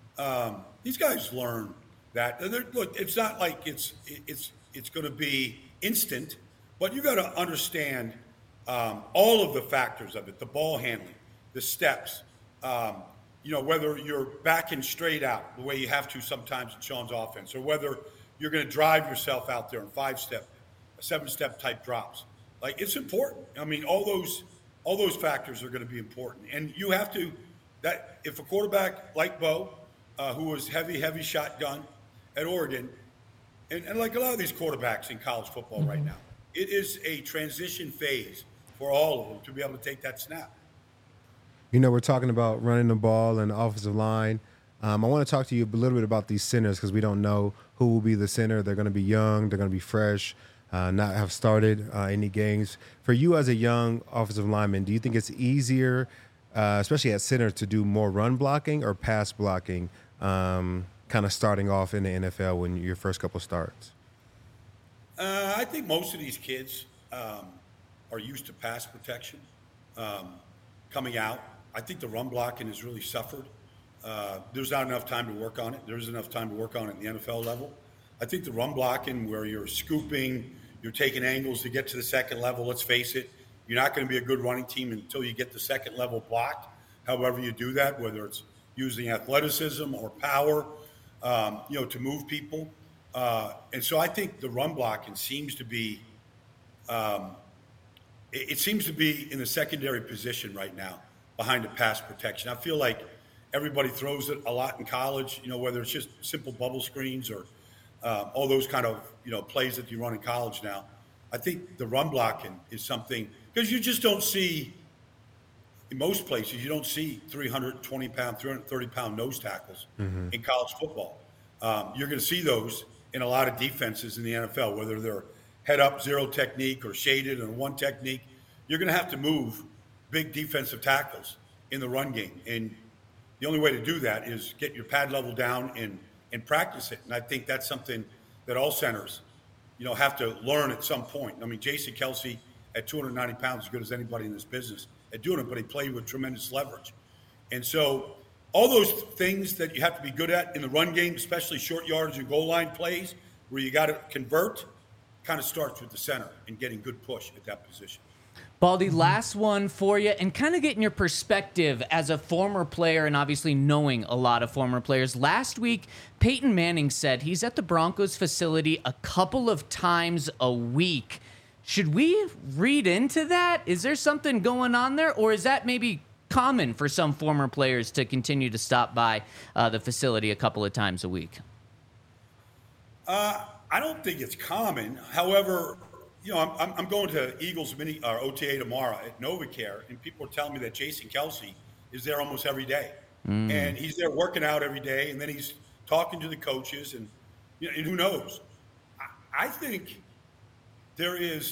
S6: learn that. Look, it's not like it's going to be instant, but you got to understand all of the factors of it: the ball handling, the steps. Whether you're backing straight out the way you have to sometimes in Sean's offense, or whether you're going to drive yourself out there in 5-step, 7-step type drops. Like, it's important. I mean, all those factors are going to be important. And you have to, that if a quarterback like Bo, who was heavy shotgun at Oregon, and like a lot of these quarterbacks in college football right now, it is a transition phase for all of them to be able to take that snap.
S3: We're talking about running the ball and the offensive line. I want to talk to you a little bit about these centers because we don't know who will be the center. They're going to be young. They're going to be fresh. Not have started any games. For you as a young offensive lineman, do you think it's easier, especially at center, to do more run blocking or pass blocking, kind of starting off in the NFL when your first couple starts?
S6: I think most of these kids are used to pass protection coming out. I think the run blocking has really suffered. There's not enough time to work on it. There's enough time to work on it at the NFL level. I think the run blocking where you're scooping, you're taking angles to get to the second level, let's face it, you're not going to be a good running team until you get the second level blocked. However you do that, whether it's using athleticism or power, to move people. And so I think the run blocking seems to be it seems to be in the secondary position right now behind the pass protection. I feel like everybody throws it a lot in college, whether it's just simple bubble screens or all those kind of plays that you run in college now. I think the run blocking is something because you just don't see in most places. You don't see 320-pound, 330-pound nose tackles in college football. You're going to see those in a lot of defenses in the NFL, whether they're head up zero technique or shaded and one technique. You're going to have to move big defensive tackles in the run game, and the only way to do that is get your pad level down and practice it. And I think that's something that all centers, have to learn at some point. I mean, Jason Kelce at 290 pounds, as good as anybody in this business at doing it, but he played with tremendous leverage. And so all those things that you have to be good at in the run game, especially short yardage and goal line plays where you got to convert, kind of starts with the center and getting good push at that position.
S2: Baldy, last one for you, and kind of getting your perspective as a former player and obviously knowing a lot of former players. Last week, Peyton Manning said he's at the Broncos facility a couple of times a week. Should we read into that? Is there something going on there, or is that maybe common for some former players to continue to stop by the facility a couple of times a week?
S6: I don't think it's common. However, I'm going to Eagles OTA tomorrow at NovaCare, and people are telling me that Jason Kelce is there almost every day. And he's there working out every day, and then he's talking to the coaches, and who knows? I think there is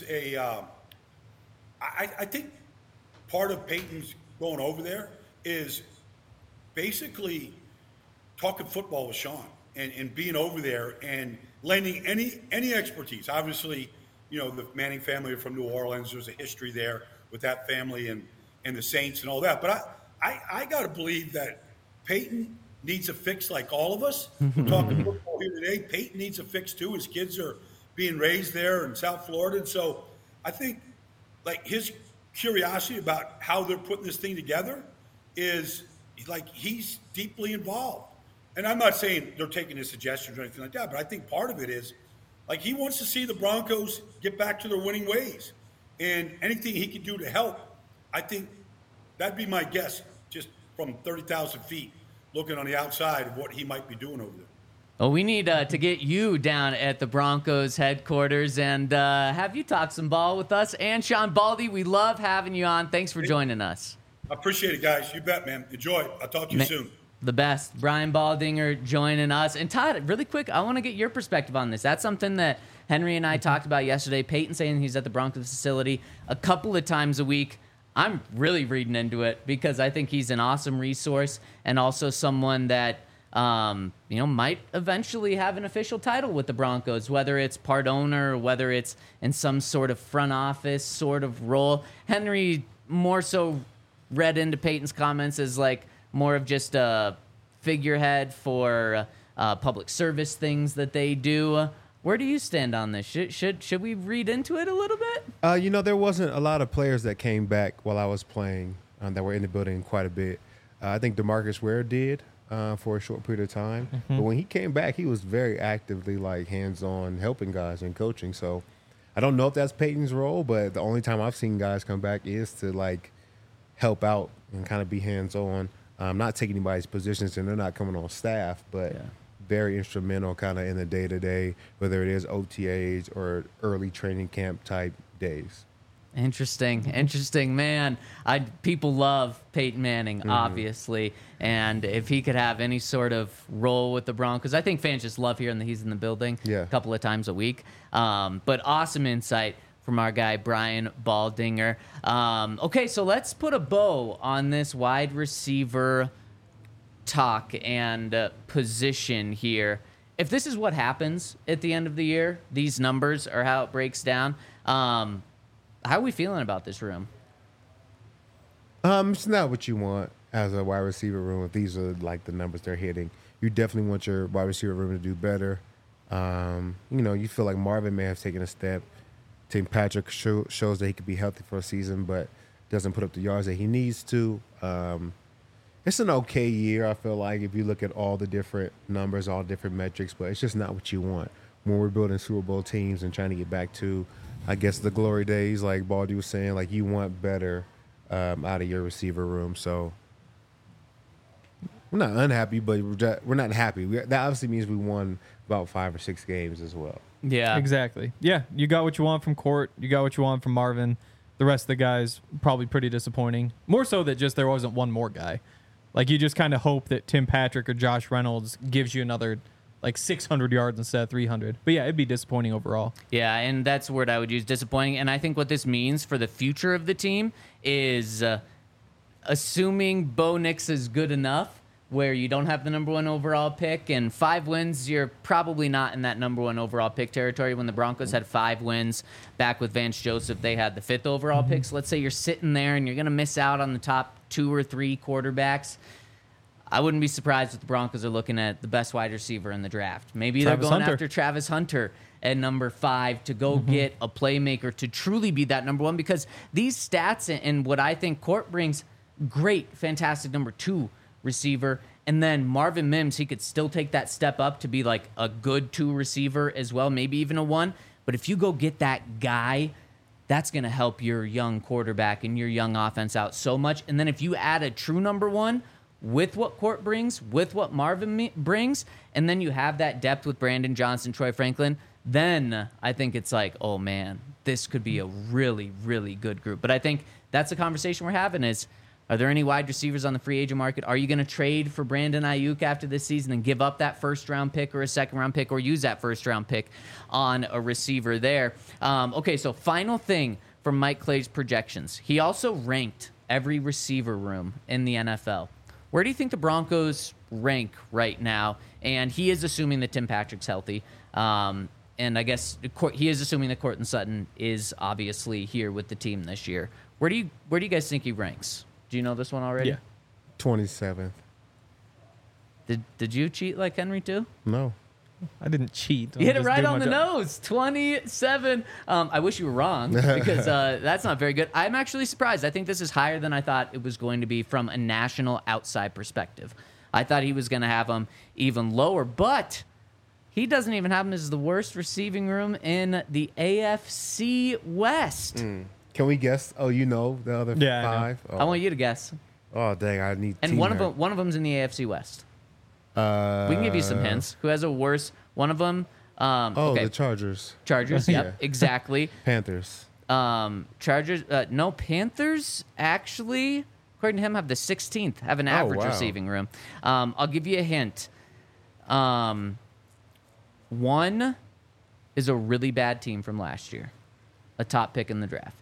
S6: I think part of Peyton's going over there is basically talking football with Sean and being over there and lending any expertise. Obviously, the Manning family are from New Orleans. There's a history there with that family and the Saints and all that. But I got to believe that Peyton needs a fix like all of us. We're talking football here today. Peyton needs a fix too. His kids are being raised there in South Florida. And so I think his curiosity about how they're putting this thing together is he's deeply involved. And I'm not saying they're taking his suggestions or anything like that, but I think part of it is he wants to see the Broncos get back to their winning ways. And anything he can do to help, I think that'd be my guess, just from 30,000 feet, looking on the outside of what he might be doing over there.
S2: Well, we need to get you down at the Broncos headquarters and have you talk some ball with us. And Sean Baldy, we love having you on. Thanks for joining us.
S6: I appreciate it, guys. You bet, man. Enjoy. I'll talk to you soon.
S2: The best. Brian Baldinger joining us. And Todd, really quick, I want to get your perspective on this. That's something that Henry and I talked about yesterday. Peyton saying he's at the Broncos facility a couple of times a week. I'm really reading into it because I think he's an awesome resource and also someone that might eventually have an official title with the Broncos, whether it's part owner or whether it's in some sort of front office sort of role. Henry more so read into Peyton's comments as more of just a figurehead for public service things that they do. Where do you stand on this? Should we read into it a little bit?
S3: There wasn't a lot of players that came back while I was playing that were in the building quite a bit. I think DeMarcus Ware did. For a short period of time. But when he came back, he was very actively hands-on helping guys and coaching. So I don't know if that's Peyton's role, but the only time I've seen guys come back is to help out and kind of be hands-on. Not taking anybody's positions, and they're not coming on staff, but very instrumental kind of in the day-to-day, whether it is OTAs or early training camp type days.
S2: Interesting, man. People love Peyton Manning, obviously, and if he could have any sort of role with the Broncos, I think fans just love hearing that he's in the building a couple of times a week. But awesome insight from our guy Brian Baldinger. Okay, so let's put a bow on this wide receiver talk and position here. If this is what happens at the end of the year, these numbers are how it breaks down. How are we feeling about this room?
S3: It's not what you want as a wide receiver room. If these are the numbers they're hitting, you definitely want your wide receiver room to do better. You feel like Marvin may have taken a step. Tim Patrick shows that he could be healthy for a season, but doesn't put up the yards that he needs to. It's an okay year, I feel like, if you look at all the different numbers, all different metrics, but it's just not what you want when we're building Super Bowl teams and trying to get back to, I guess, the glory days, like Baldy was saying. You want better out of your receiver room. So we're not unhappy, but we're not happy. That obviously means we won about 5 or 6 games as well.
S2: Yeah,
S4: exactly. Yeah, you got what you want from Court. You got what you want from Marvin. The rest of the guys probably pretty disappointing. More so that just there wasn't one more guy. You just kind of hope that Tim Patrick or Josh Reynolds gives you another 600 yards instead of 300. But yeah, it'd be disappointing overall.
S2: Yeah, and that's the word I would use, disappointing. And I think what this means for the future of the team is assuming Bo Nix is good enough where you don't have the number 1 overall pick and 5 wins, you're probably not in that number 1 overall pick territory. When the Broncos had 5 wins back with Vance Joseph, they had the 5th overall pick. So let's say you're sitting there and you're going to miss out on the top 2 or 3 quarterbacks. I wouldn't be surprised if the Broncos are looking at the best wide receiver in the draft. Maybe they're going after Travis Hunter at number 5 to go get a playmaker to truly be that number 1, because these stats and what I think Court brings, great, fantastic number 2 receiver. And then Marvin Mims, he could still take that step up to be a good 2 receiver as well, maybe even a 1. But if you go get that guy, that's going to help your young quarterback and your young offense out so much. And then if you add a true number 1, with what Court brings, with what Marvin brings, and then you have that depth with Brandon Johnson, Troy Franklin, then I think it's oh, man, this could be a really, really good group. But I think that's the conversation we're having is, are there any wide receivers on the free agent market? Are you going to trade for Brandon Ayuk after this season and give up that first-round pick or a second-round pick or use that first-round pick on a receiver there? Okay, so final thing from Mike Clay's projections. He also ranked every receiver room in the NFL. Where do you think the Broncos rank right now? And he is assuming that Tim Patrick's healthy. And I guess he is assuming that Courtland Sutton is obviously here with the team this year. Where do you guys think he ranks? Do you know this one already?
S3: Yeah. 27th.
S2: Did you cheat like Henry too?
S3: No.
S4: I didn't cheat.
S2: You hit it right on the nose. 27. I wish you were wrong because that's not very good. I'm actually surprised. I think this is higher than I thought it was going to be from a national outside perspective. I thought he was going to have him even lower, but he doesn't even have him as the worst receiving room in the AFC West.
S3: Can we guess? Oh, you know the other
S4: Yeah, I know.
S3: 5? Oh.
S2: I want you to guess.
S3: Oh, dang, I need
S2: And
S3: team
S2: one
S3: help.
S2: of them's in the AFC West. We can give you some hints. Who has a worse? One of them. Okay.
S3: The Chargers.
S2: Chargers.
S3: Yeah.
S2: Yep, exactly.
S3: Panthers.
S2: Chargers. No, Panthers actually, according to him, have the 16th. Have an average
S3: wow.
S2: receiving room. I'll give you a hint. One is a really bad team from last year, a top pick in the draft.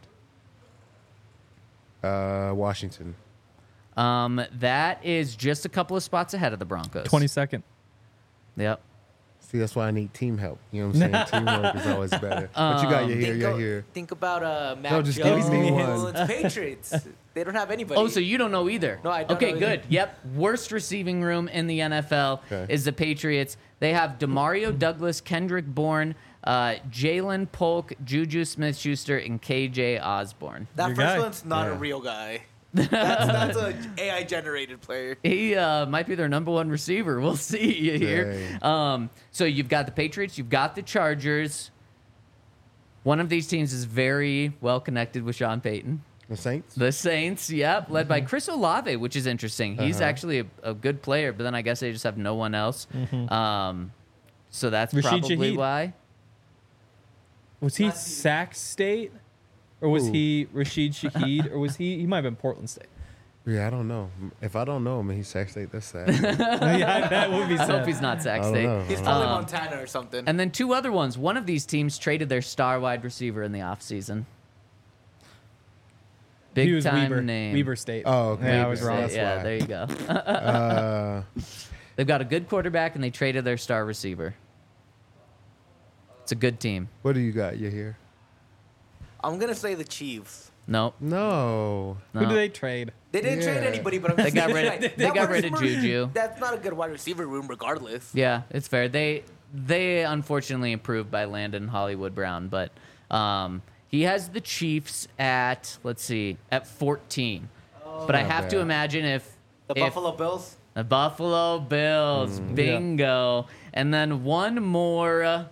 S3: Washington.
S2: That is just a couple of spots ahead of the Broncos.
S4: 22nd.
S2: Yep.
S3: See, that's why I need team help. You know what I'm saying? Teamwork is always better. But you got your here, your here.
S5: Think about Mac
S3: No, just
S5: Jones
S3: give me one.
S5: and the Patriots. They don't have anybody.
S2: Oh, so you don't know either?
S5: No, I don't
S2: Okay,
S5: know
S2: good.
S5: either.
S2: Yep. Worst receiving room in the NFL
S3: Okay.
S2: is the Patriots. They have Demario Douglas, Kendrick Bourne, Jalen Polk, Juju Smith-Schuster, and KJ Osborne.
S5: that
S4: Your
S5: first
S4: guy.
S5: one's not a
S3: Yeah.
S5: real guy. That's a AI generated player.
S2: He might be their number one receiver. We'll see here. So you've got the Patriots. You've got the Chargers. One of these teams is very well connected with Sean Payton.
S3: The Saints?
S2: The Saints, yep, led by Chris Olave, which is interesting. He's actually a good player, but then I guess they just have no one else. So that's
S4: Rashid
S2: probably
S4: Shaheed.
S2: why.
S4: Was he Sac State? Or was
S3: Ooh.
S4: he Rashid Shaheed? Or was he might have been Portland State.
S3: Yeah, I don't know. If I don't know him and he's Sac State, that's sad.
S4: Yeah, that would be
S2: I hope
S4: sad.
S2: he's not
S3: I
S2: Sac
S3: don't
S2: State.
S3: know.
S5: He's probably Montana or something.
S2: And then two other ones. One of these teams traded their star wide receiver in the offseason. Big
S4: He was
S2: time
S4: Weber.
S2: name.
S4: Weber State.
S3: Oh, okay.
S4: Yeah, I was
S3: Weber
S4: wrong.
S3: State.
S2: Yeah,
S3: why.
S2: there you go. They've got a good quarterback, and they traded their star receiver. It's a good team.
S3: What do you got? You here?
S5: I'm gonna say the Chiefs.
S2: Nope.
S3: No.
S2: No.
S4: Who do they trade?
S5: They didn't
S3: Yeah.
S5: trade anybody, but I'm
S2: They
S5: just
S2: got
S5: saying,
S2: rid of-
S5: like,
S2: they
S5: that
S2: got
S5: wide
S2: rid of
S5: receiver-
S2: Juju.
S5: That's not a good wide receiver room, regardless.
S2: Yeah, it's fair. They unfortunately improved by Landon Hollywood Brown, but he has the Chiefs at, let's see, at 14. But I
S3: Not
S2: have to
S3: bad.
S2: imagine if
S5: The Buffalo Bills.
S2: the Buffalo Bills, bingo, and then one more.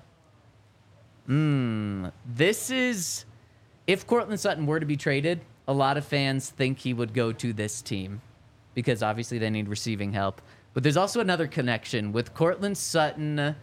S2: This is if Cortland Sutton were to be traded. A lot of fans think he would go to this team because obviously they need receiving help. But there's also another connection with Cortland Sutton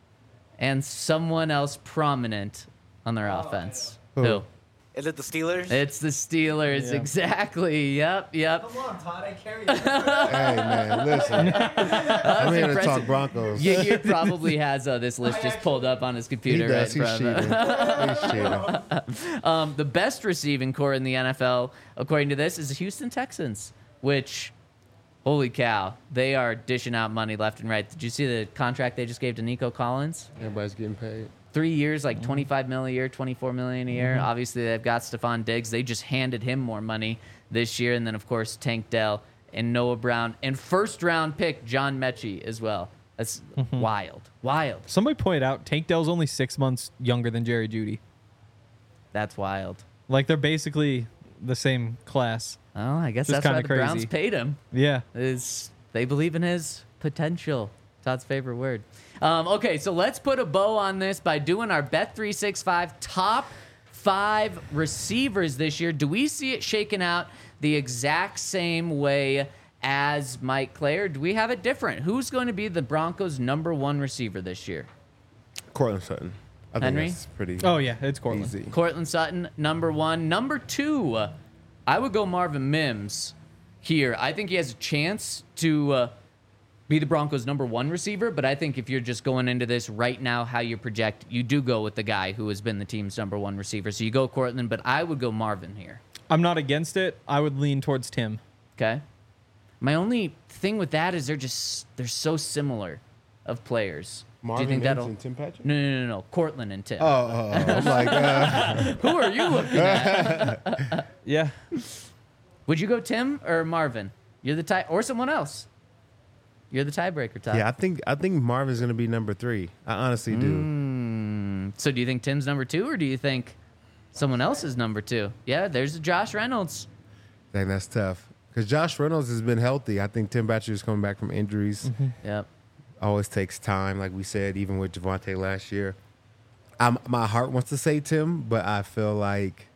S2: and someone else prominent on their offense. Who?
S5: Is it the Steelers?
S2: It's the Steelers,
S4: Yeah.
S2: exactly. Yep.
S5: Come on, Todd. I carry you.
S3: Hey, man, listen. I'm here to talk
S2: impressive.
S3: Broncos.
S2: He probably has this list just pulled up on his
S3: He
S2: computer
S3: does.
S2: right
S3: He's
S2: in front of him.
S3: cheating. He's cheating.
S2: The best receiving core in the NFL, according to this, is the Houston Texans, which, holy cow, they are dishing out money left and right. Did you see the contract they just gave to Nico Collins?
S3: Everybody's getting paid.
S2: 3 years, like $25 million a year, $24 million a year. Obviously, they've got Stephon Diggs. They just handed him more money this year. And then, of course, Tank Dell and Noah Brown. And first-round pick John Mechie as well. That's wild. Wild.
S4: Somebody pointed out Tank Dell's only 6 months younger than Jerry Jeudy.
S2: That's wild.
S4: Like they're basically the same class.
S2: Well, I guess
S4: Just
S2: that's why
S4: kinda
S2: the Browns
S4: crazy.
S2: paid him.
S4: Yeah.
S2: Is they believe in his potential. Todd's favorite word. Okay, so let's put a bow on this by doing our Bet365 top 5 receivers this year. Do we see it shaken out the exact same way as Mike Clay, or do we have it different? Who's going to be the Broncos' number 1 receiver this year?
S3: Cortland Sutton. I think
S2: Henry?
S3: that's pretty
S4: Oh yeah, it's Cortland.
S3: easy.
S2: Cortland Sutton, number 1. Number 2, I would go Marvin Mims here. I think he has a chance to be the Broncos' number 1 receiver, but I think if you're just going into this right now, how you project, you do go with the guy who has been the team's number 1 receiver. So you go Cortland, but I would go Marvin here.
S4: I'm not against it. I would lean towards Tim.
S2: Okay? My only thing with that is they're so similar of players.
S3: Marvin
S2: do you think
S3: Mims
S2: that'll...
S3: and Tim Patrick?
S2: No. Cortland and Tim.
S3: I'm like,
S2: Who are you looking at?
S4: Yeah.
S2: Would you go Tim or Marvin? You're the type, or someone else. You're the tiebreaker, Todd.
S3: Yeah, I think Marvin's gonna be number 3. I honestly do.
S2: So do you think Tim's number 2, or do you think someone else is number 2? Yeah, there's Josh Reynolds.
S3: I think that's tough because Josh Reynolds has been healthy. I think Tim Patrick is coming back from injuries.
S2: Yep.
S3: Always takes time, like we said, even with Javonte last year. My heart wants to say Tim, but I feel like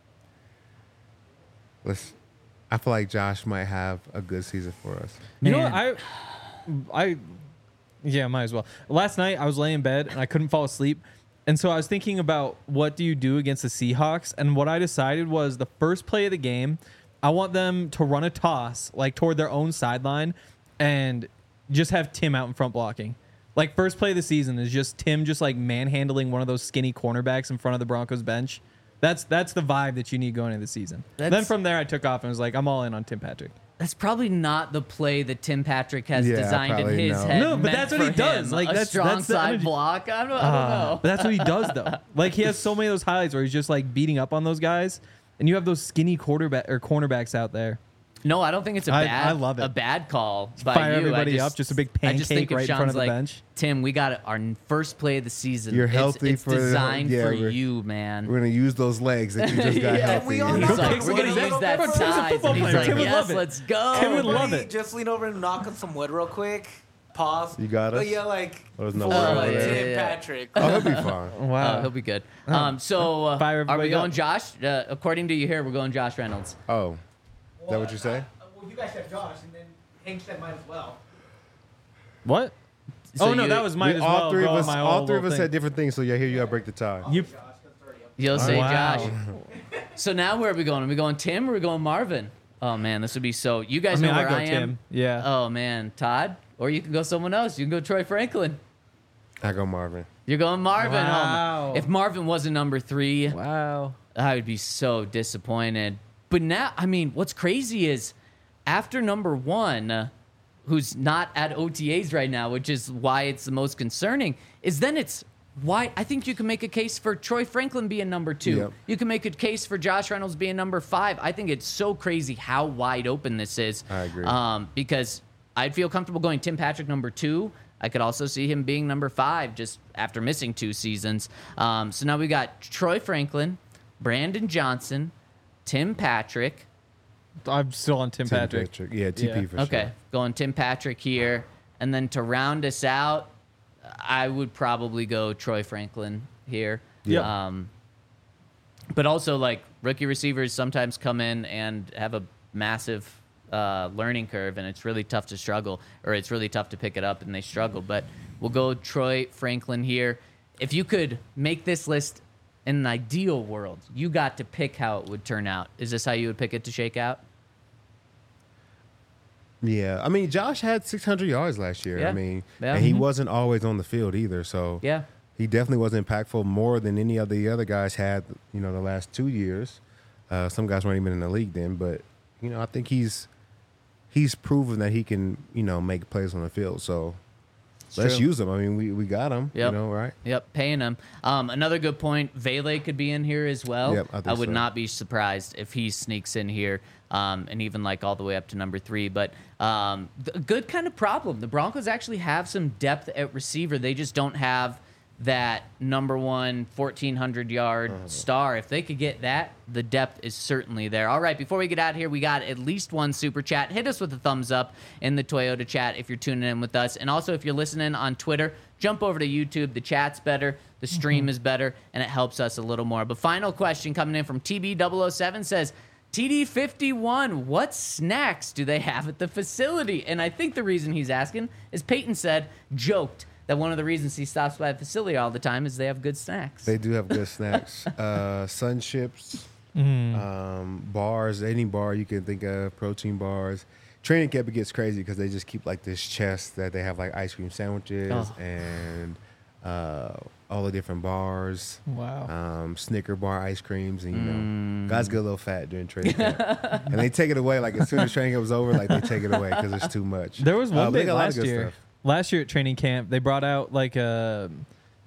S3: Josh might have a good season for us.
S4: You know
S2: Man.
S4: what? Yeah, might as well. Last night I was laying in bed and I couldn't fall asleep. And so I was thinking about what do you do against the Seahawks? And what I decided was the first play of the game, I want them to run a toss like toward their own sideline and just have Tim out in front blocking. Like first play of the season is just Tim just like manhandling one of those skinny cornerbacks in front of the Broncos bench. That's the vibe that you need going into the season. Then from there I took off and was like, I'm all in on Tim Patrick.
S2: That's probably not the play that Tim Patrick has
S3: Yeah,
S2: designed in
S3: probably
S2: his
S3: no.
S2: head.
S4: No, but
S2: meant
S4: that's what he
S2: for
S4: does.
S2: him.
S4: Like,
S2: a
S4: that's
S2: strong
S4: the
S2: side
S4: energy.
S2: block. I don't know.
S4: But that's what he does though. Like he has so many of those highlights where he's just like beating up on those guys, and you have those skinny cornerbacks out out there.
S2: No, I don't think it's
S4: I love it.
S2: a bad call by
S4: Fire
S2: you.
S4: everybody up, just a big
S2: I just think
S4: pancake
S2: of
S4: right in
S2: Sean's
S4: front of the
S2: like,
S4: bench.
S2: Tim, we got our first play of the season.
S3: You're healthy
S2: It's
S3: for the-
S2: designed
S3: yeah,
S2: for
S3: we're-
S2: you, man.
S3: We're gonna use those legs that you just got
S2: Yeah,
S3: healthy.
S5: we all
S2: He's
S5: know
S2: like,
S5: that.
S2: we're gonna use that
S5: Bro, Tim's a
S2: size,
S4: football
S2: and he's
S4: player.
S2: like,
S4: Tim would
S2: yes,
S4: love it.
S2: let's go.
S4: Tim would love
S5: Everybody
S4: it.
S5: Just lean over and knock on some wood real quick. Pause.
S3: You got us?
S5: But yeah, like
S3: Oh, there's no
S5: for
S3: wood over
S2: there.
S5: Tim
S2: Yeah.
S5: Patrick.
S3: Oh, he'll be fine.
S4: Wow.
S2: He'll be good. So
S4: Fire
S2: are we
S4: everybody
S2: going
S4: up.
S2: Josh? According to you here, we're going Josh Reynolds.
S3: Oh, is that what you say?
S7: Well, you guys said Josh, and then Hank said mine as well.
S4: What?
S2: So
S4: oh no,
S2: you-
S4: that was mine as well.
S3: all three of
S4: bro,
S3: us,
S4: my
S3: all
S4: old
S3: three of
S4: little
S3: us
S4: thing.
S3: had different things. So yeah, here you gotta break the tie.
S4: You,
S7: Josh, that's 30.
S2: You'll say
S4: Wow.
S2: Josh. So now where are we going? Are we going Tim or are we going Marvin? Oh man, this would be so. You guys know where
S4: I go
S2: I am.
S4: Tim. Yeah.
S2: Oh man, Todd, or you can go someone else. You can go Troy Franklin.
S3: I go Marvin.
S2: You're going Marvin. Oh,
S4: Wow.
S2: if Marvin wasn't number 3,
S4: Wow.
S2: I would be so disappointed. But now, I mean, what's crazy is after number 1, who's not at OTAs right now, which is why it's the most concerning, is then it's why I think you can make a case for Troy Franklin being number 2.
S3: Yep.
S2: You can make a case for Josh Reynolds being number 5. I think it's so crazy how wide open this is.
S3: I agree.
S2: Because I'd feel comfortable going Tim Patrick number 2. I could also see him being number 5 just after missing 2 seasons. So now we got Troy Franklin, Brandon Johnson, Tim Patrick.
S4: I'm still on Tim Patrick.
S3: Yeah, TP
S4: Yeah.
S3: for
S2: Okay,
S3: sure.
S2: going Tim Patrick here. And then to round us out, I would probably go Troy Franklin here.
S4: Yep.
S2: But also, like, rookie receivers sometimes come in and have a massive learning curve, and it's really tough to struggle, or it's really tough to pick it up, and they struggle. But we'll go Troy Franklin here. If you could make this list in an ideal world, you got to pick how it would turn out. Is this how you would pick it to shake out?
S3: Yeah, I mean, Josh had 600 yards last year.
S2: Yeah.
S3: I mean,
S2: Yeah.
S3: and he wasn't always on the field either. So
S2: Yeah.
S3: he definitely was impactful more than any of the other guys had. You know, the last 2 years. Some guys weren't even in the league then, but you know, I think he's proven that he can, you know, make plays on the field. So let's
S2: true.
S3: use him. I mean, we got him.
S2: Yep.
S3: You know, right?
S2: Yep, paying him. Another good point, Vele could be in here as well.
S3: Yep, I think
S2: would
S3: so.
S2: not be surprised if he sneaks in here, and even like all the way up to number 3. But good kind of problem. The Broncos actually have some depth at receiver. They just don't have that number 1 1,400-yard star. If they could get that, the depth is certainly there. All right, before we get out of here, we got at least one super chat. Hit us with a thumbs up in the Toyota chat if you're tuning in with us. And also, if you're listening on Twitter, jump over to YouTube. The chat's better, the stream is better, and it helps us a little more. But final question coming in from TB007 says, TD51, what snacks do they have at the facility? And I think the reason he's asking is Peyton joked that one of the reasons he stops by the facility all the time is they have good snacks.
S3: They do have good snacks. Sun chips, bars, any bar you can think of, protein bars. Training camp, it gets crazy because they just keep like this chest that they have like ice cream sandwiches and all the different bars.
S4: Wow.
S3: Snicker bar ice creams, and you know, guys get a little fat during training camp, and they take it away. Like as soon as training camp was over, like they take it away because it's too much.
S4: There was one
S3: but they
S4: day
S3: got a lot of
S4: last
S3: good
S4: year.
S3: stuff.
S4: Last year at training camp, they brought out like an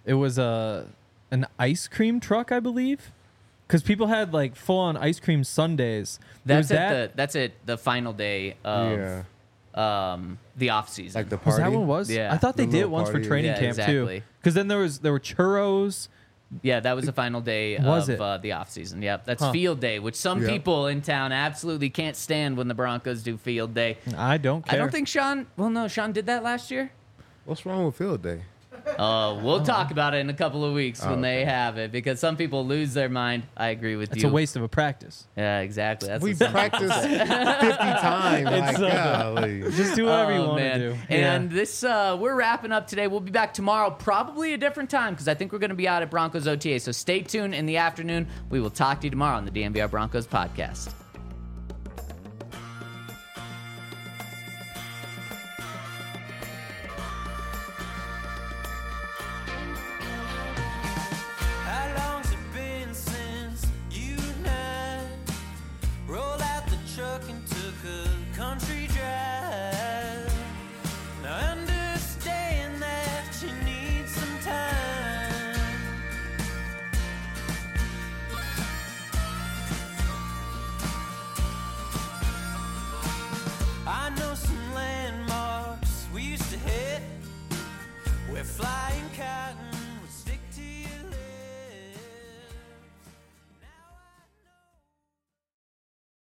S4: ice cream truck, I believe, because people had like full on ice cream sundaes. There was
S2: That's at the final day of
S3: Yeah.
S2: the off season.
S3: Like the
S4: Was
S3: party.
S4: that what it was?
S2: Yeah.
S4: I thought they
S3: The
S4: did it
S3: little
S4: once for
S3: party,
S4: training
S2: yeah,
S4: camp
S2: exactly.
S4: too. Because then there were churros.
S2: Yeah, that was the final day
S4: Was
S2: of
S4: it?
S2: the off season. Yep, that's
S4: Huh.
S2: field day, which some
S3: Yeah.
S2: people in town absolutely can't stand when the Broncos do field day.
S4: I don't care.
S2: I don't think Sean. Well, no, Sean did that last year.
S3: What's wrong with field day?
S2: We'll talk about it in a couple of weeks when they
S3: okay.
S2: have it because some people lose their mind. I agree with
S4: it's
S2: you.
S4: a waste of a practice.
S2: Yeah, exactly. That's
S3: We've
S2: what some-
S3: practiced 50 times.
S4: It's
S3: Like,
S4: so
S3: golly.
S4: Just do whatever you
S2: Oh,
S4: want
S2: man.
S4: to do.
S2: And this, we're wrapping up today. We'll be back tomorrow, probably a different time, because I think we're going to be out at Broncos OTA. So stay tuned in the afternoon. We will talk to you tomorrow on the DNVR Broncos podcast.